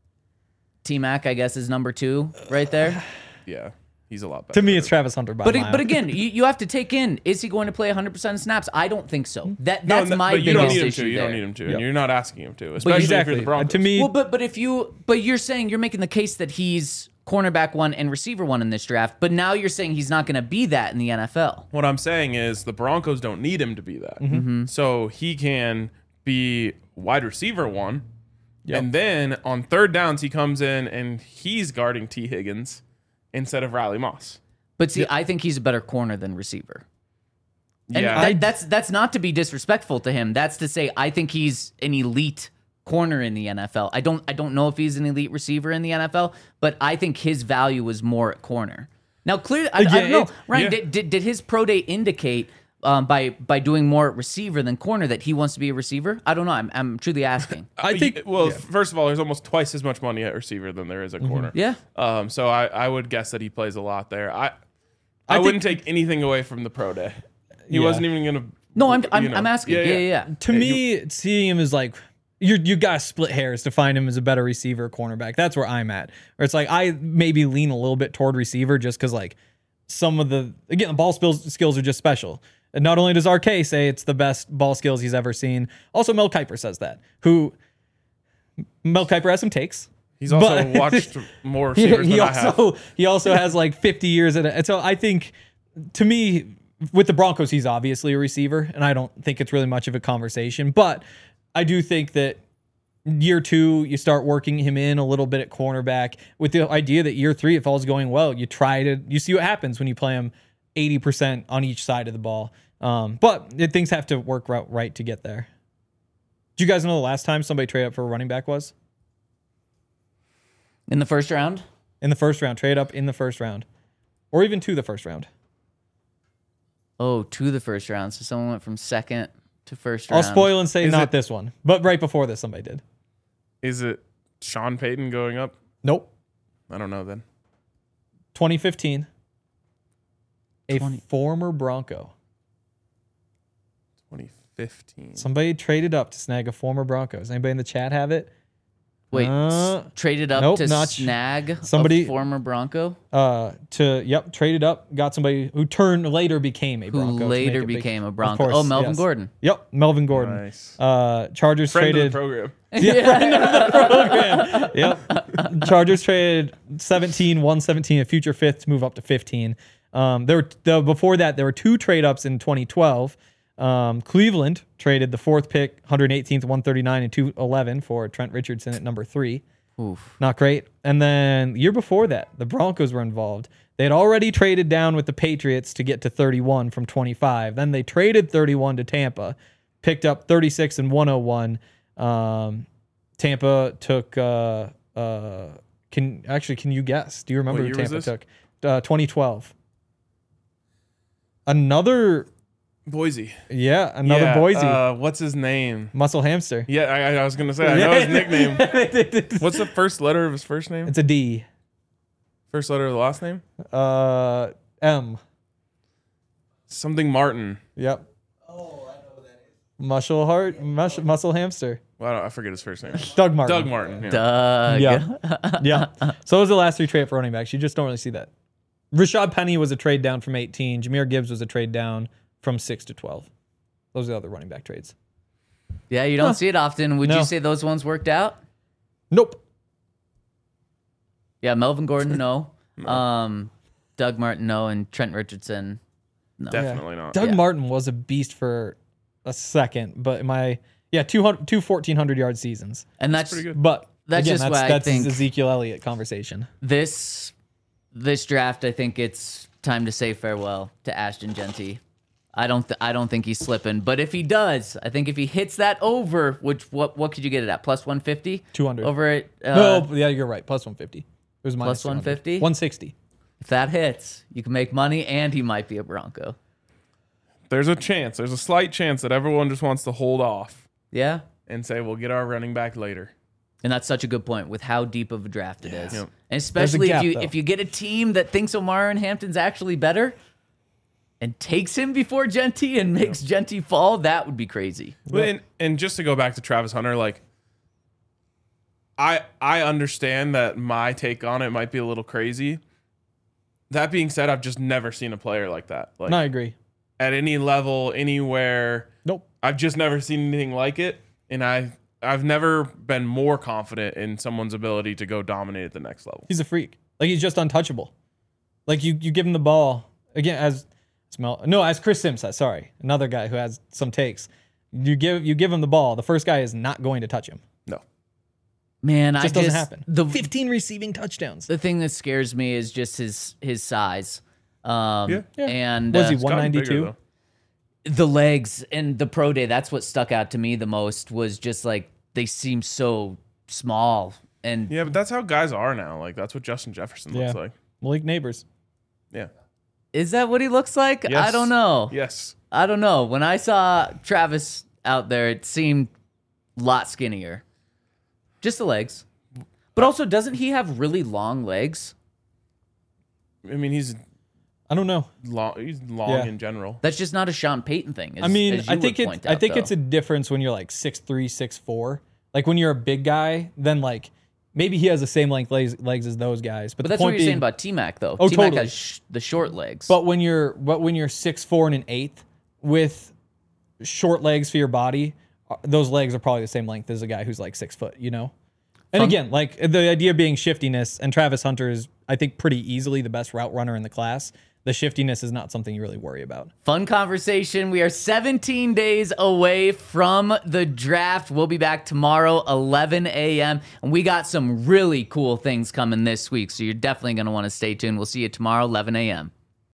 [SPEAKER 1] T Mac, I guess, is number two right there.
[SPEAKER 2] Yeah, he's a lot better.
[SPEAKER 3] To me, it's Travis Hunter by
[SPEAKER 1] But
[SPEAKER 3] a
[SPEAKER 1] it-
[SPEAKER 3] mile.
[SPEAKER 1] but again, you, you have to take in: is he going to play one hundred percent of snaps? I don't think so. That
[SPEAKER 2] No,
[SPEAKER 1] that's
[SPEAKER 2] no,
[SPEAKER 1] my
[SPEAKER 2] but you
[SPEAKER 1] biggest
[SPEAKER 2] don't need him
[SPEAKER 1] issue
[SPEAKER 2] to. You
[SPEAKER 1] there.
[SPEAKER 2] don't need him to,
[SPEAKER 3] Yep.
[SPEAKER 2] and you're not asking him to, especially
[SPEAKER 3] exactly.
[SPEAKER 2] if you're the Broncos.
[SPEAKER 3] To me,
[SPEAKER 1] Well, but but if you but you're saying you're making the case that he's cornerback one and receiver one in this draft, but now you're saying he's not going to be that in the N F L.
[SPEAKER 2] what I'm saying is the Broncos don't need him to be that,
[SPEAKER 1] Mm-hmm.
[SPEAKER 2] so he can be wide receiver one,
[SPEAKER 3] Yep.
[SPEAKER 2] and then on third downs he comes in and he's guarding T Higgins instead of Riley Moss.
[SPEAKER 1] But see, I think he's a better corner than receiver. And
[SPEAKER 2] Yeah,
[SPEAKER 1] that, that's that's not to be disrespectful to him. That's to say I think he's an elite corner in the N F L. I don't I don't know if he's an elite receiver in the N F L, but I think his value is more at corner. Now, clearly, I, I
[SPEAKER 3] Again,
[SPEAKER 1] don't know,
[SPEAKER 3] it's-
[SPEAKER 1] Ryan.
[SPEAKER 2] yeah.
[SPEAKER 1] Did, did did his pro day indicate um, by by doing more at receiver than corner that he wants to be a receiver? I don't know. I'm I'm truly asking.
[SPEAKER 3] I
[SPEAKER 2] Uh,
[SPEAKER 3] think.
[SPEAKER 2] y- well, first of all, there's almost twice as much money at receiver than there is at corner.
[SPEAKER 1] Yeah.
[SPEAKER 2] Um, so I, I would guess that he plays a lot there. I I,
[SPEAKER 3] think-
[SPEAKER 2] wouldn't take anything away from the pro day. He
[SPEAKER 3] Yeah.
[SPEAKER 2] wasn't even gonna.
[SPEAKER 1] No, I'm I'm,
[SPEAKER 2] you know.
[SPEAKER 1] I'm asking. Yeah, yeah, yeah.
[SPEAKER 3] To me, seeing him as like you you got to split hairs to find him as a better receiver or cornerback. That's where I'm at. Or it's like I maybe lean a little bit toward receiver just because like some of the again the ball skills skills are just special. And not only does R K say it's the best ball skills he's ever seen, also Mel Kiper says that. Who Mel Kiper has some takes.
[SPEAKER 2] He's also
[SPEAKER 3] But-
[SPEAKER 2] watched more
[SPEAKER 3] he,
[SPEAKER 2] receivers
[SPEAKER 3] he
[SPEAKER 2] than I have.
[SPEAKER 3] also he also has like fifty years in it. And so I think to me with the Broncos he's obviously a receiver and I don't think it's really much of a conversation, but I do think that year two you start working him in a little bit at cornerback with the idea that year three if all's going well you try to you see what happens when you play him eighty percent on each side of the ball. Um, but it, things have to work right, right to get there. Do you guys know the last time somebody traded up for a running back was?
[SPEAKER 1] In the first round.
[SPEAKER 3] In the first round, trade up in the first round, or even to the first round.
[SPEAKER 1] Oh, to the first round. So someone went from second to first
[SPEAKER 3] I'll
[SPEAKER 1] round.
[SPEAKER 3] spoil and say
[SPEAKER 2] Is
[SPEAKER 3] not
[SPEAKER 2] it-
[SPEAKER 3] this one, but right before this, somebody did.
[SPEAKER 2] Is it Sean Payton going up?
[SPEAKER 3] Nope.
[SPEAKER 2] I don't know then.
[SPEAKER 3] twenty fifteen. A
[SPEAKER 1] twenty
[SPEAKER 3] former Bronco.
[SPEAKER 2] twenty fifteen.
[SPEAKER 3] Somebody traded up to snag a former Bronco. Does anybody in the chat have it?
[SPEAKER 1] Wait,
[SPEAKER 3] Uh,
[SPEAKER 1] s- traded up
[SPEAKER 3] nope,
[SPEAKER 1] to
[SPEAKER 3] not-
[SPEAKER 1] snag
[SPEAKER 3] somebody-
[SPEAKER 1] a former Bronco
[SPEAKER 3] Uh, to yep, traded up, got somebody who turned later became a
[SPEAKER 1] who
[SPEAKER 3] Bronco. to
[SPEAKER 1] later
[SPEAKER 3] make it big-
[SPEAKER 1] became a
[SPEAKER 3] Of
[SPEAKER 1] Bronco.
[SPEAKER 3] course,
[SPEAKER 1] Oh, Melvin
[SPEAKER 3] yes.
[SPEAKER 1] Gordon.
[SPEAKER 3] Yep, Melvin Gordon.
[SPEAKER 2] Nice.
[SPEAKER 3] Uh, Chargers
[SPEAKER 2] Friend
[SPEAKER 3] traded.
[SPEAKER 2] of the program.
[SPEAKER 3] Yep. Chargers traded seventeen, one seventeen, a future fifth to move up to fifteen. Um, there were the before that there were two trade ups in twenty twelve. Um, Cleveland traded the fourth pick, one hundred eighteenth, one thirty-nine, and two eleven for Trent Richardson at number three.
[SPEAKER 1] Oof.
[SPEAKER 3] Not great. And then the year before that, the Broncos were involved. They had already traded down with the Patriots to get to thirty-one from twenty-five. Then they traded thirty-one to Tampa, picked up thirty-six and one oh one. Um, Tampa took. Uh, uh, can actually can you guess? Do you remember
[SPEAKER 2] What
[SPEAKER 3] who
[SPEAKER 2] year was
[SPEAKER 3] Tampa
[SPEAKER 2] this?
[SPEAKER 3] took? Uh, twenty twelve. Another,
[SPEAKER 2] Boise.
[SPEAKER 3] yeah, another
[SPEAKER 2] Yeah,
[SPEAKER 3] Boise
[SPEAKER 2] Uh, what's his name?
[SPEAKER 3] muscle hamster.
[SPEAKER 2] Yeah, I, I was gonna say I know his nickname. What's the first letter of his first name?
[SPEAKER 3] It's a D.
[SPEAKER 2] First letter of the last name?
[SPEAKER 3] Uh, M.
[SPEAKER 2] Something Martin.
[SPEAKER 3] Yep. Muscle heart, mus- muscle hamster.
[SPEAKER 2] Well, I, don't, I forget his first name.
[SPEAKER 3] Doug Martin.
[SPEAKER 2] Doug Martin. Yeah.
[SPEAKER 1] Doug.
[SPEAKER 3] Yeah. Yeah. So those are the last three trade for running backs. You just don't really see that. Rashad Penny was a trade down from eighteen. Jahmyr Gibbs was a trade down from six to twelve. Those are the other running back trades.
[SPEAKER 1] Yeah, you don't see it often. Would
[SPEAKER 3] No.
[SPEAKER 1] you say those ones worked out?
[SPEAKER 3] Nope.
[SPEAKER 1] Yeah, Melvin Gordon, no. Um, Doug Martin, no. And Trent Richardson, no.
[SPEAKER 2] Definitely not.
[SPEAKER 3] Doug
[SPEAKER 1] Yeah.
[SPEAKER 3] Martin was a beast for a second, but my yeah, two hundred, two fourteen hundred yard seasons.
[SPEAKER 1] And that's,
[SPEAKER 2] pretty good.
[SPEAKER 3] But
[SPEAKER 1] That's
[SPEAKER 3] again,
[SPEAKER 1] just
[SPEAKER 3] that's
[SPEAKER 1] why I
[SPEAKER 3] that's
[SPEAKER 1] think-
[SPEAKER 3] Ezekiel Elliott conversation.
[SPEAKER 1] this this draft. I think it's time to say farewell to Ashton Genty. I don't th- I don't think he's slipping, but if he does, I think if he hits that over, which what what could you get it at? Plus one fifty?
[SPEAKER 3] two hundred.
[SPEAKER 1] Over it. Uh,
[SPEAKER 3] No, yeah, you're right. Plus one fifty. It was minus
[SPEAKER 1] Plus one fifty?
[SPEAKER 3] one sixty.
[SPEAKER 1] If that hits, you can make money, and he might be a Bronco.
[SPEAKER 2] There's a chance. There's a slight chance that everyone just wants to hold off
[SPEAKER 1] Yeah.
[SPEAKER 2] and say we'll get our running back later.
[SPEAKER 1] And that's such a good point with how deep of a draft it is.
[SPEAKER 2] Yep.
[SPEAKER 1] And especially
[SPEAKER 3] gap,
[SPEAKER 1] if you
[SPEAKER 3] though.
[SPEAKER 1] if you get a team that thinks Omar and Hampton's actually better and takes him before Genty and makes Genty fall, that would be crazy.
[SPEAKER 2] But and, and just to go back to Travis Hunter, like I I understand that my take on it might be a little crazy. That being said, I've just never seen a player like that. Like
[SPEAKER 3] No, I agree.
[SPEAKER 2] at any level, anywhere.
[SPEAKER 3] Nope.
[SPEAKER 2] I've just never seen anything like it. And I I've never been more confident in someone's ability to go dominate at the next level.
[SPEAKER 3] He's a freak. Like he's just untouchable. Like you, you give him the ball again as smell. No, as Chris Sims says. Sorry, another guy who has some takes. You give you give him the ball. The first guy is not going to touch him.
[SPEAKER 2] No.
[SPEAKER 1] Man,
[SPEAKER 3] It
[SPEAKER 1] I
[SPEAKER 3] just
[SPEAKER 1] just
[SPEAKER 3] doesn't happen.
[SPEAKER 1] The
[SPEAKER 3] fifteen receiving touchdowns.
[SPEAKER 1] the thing that scares me is just his his size. Um
[SPEAKER 2] Yeah.
[SPEAKER 3] Yeah.
[SPEAKER 1] and
[SPEAKER 3] Was he
[SPEAKER 1] uh,
[SPEAKER 2] It's gotten bigger,
[SPEAKER 3] one ninety-two?
[SPEAKER 2] though.
[SPEAKER 1] the legs and the pro day, that's what stuck out to me the most was just like they seem so small and
[SPEAKER 2] Yeah, but that's how guys are now. Like that's what Justin Jefferson looks
[SPEAKER 3] Yeah.
[SPEAKER 2] like.
[SPEAKER 3] Malik Neighbors.
[SPEAKER 2] Yeah.
[SPEAKER 1] is that what he looks like? I
[SPEAKER 2] Yes.
[SPEAKER 1] don't know.
[SPEAKER 2] Yes.
[SPEAKER 1] I don't know. When I saw Travis out there, it seemed a lot skinnier. Just the legs. But also, doesn't he have really long legs?
[SPEAKER 2] I mean, he's
[SPEAKER 3] I don't know.
[SPEAKER 2] long. He's long
[SPEAKER 3] Yeah.
[SPEAKER 2] in general.
[SPEAKER 1] That's just not a Sean Payton thing. As,
[SPEAKER 3] I mean,
[SPEAKER 1] as you
[SPEAKER 3] I think
[SPEAKER 1] would
[SPEAKER 3] it's
[SPEAKER 1] point
[SPEAKER 3] I
[SPEAKER 1] out,
[SPEAKER 3] think
[SPEAKER 1] though.
[SPEAKER 3] it's a difference when you're like six three, six four. Like when you're a big guy, then like maybe he has the same length legs, legs as those guys. But,
[SPEAKER 1] But
[SPEAKER 3] the
[SPEAKER 1] that's what
[SPEAKER 3] point
[SPEAKER 1] you're
[SPEAKER 3] being,
[SPEAKER 1] saying about T-Mac, though.
[SPEAKER 3] Oh,
[SPEAKER 1] T-Mac
[SPEAKER 3] totally.
[SPEAKER 1] has sh- the short legs.
[SPEAKER 3] But when you're but when you're six four and an eighth with short legs for your body, uh, those legs are probably the same length as a guy who's like six foot. You know. And
[SPEAKER 1] Fun-
[SPEAKER 3] again, like the idea being shiftiness, and Travis Hunter is, I think, pretty easily the best route runner in the class. The shiftiness is not something you really worry about.
[SPEAKER 1] Fun conversation. We are seventeen days away from the draft. We'll be back tomorrow, eleven a.m. And we got some really cool things coming this week. So you're definitely going to want to stay tuned. We'll see you tomorrow, eleven a.m.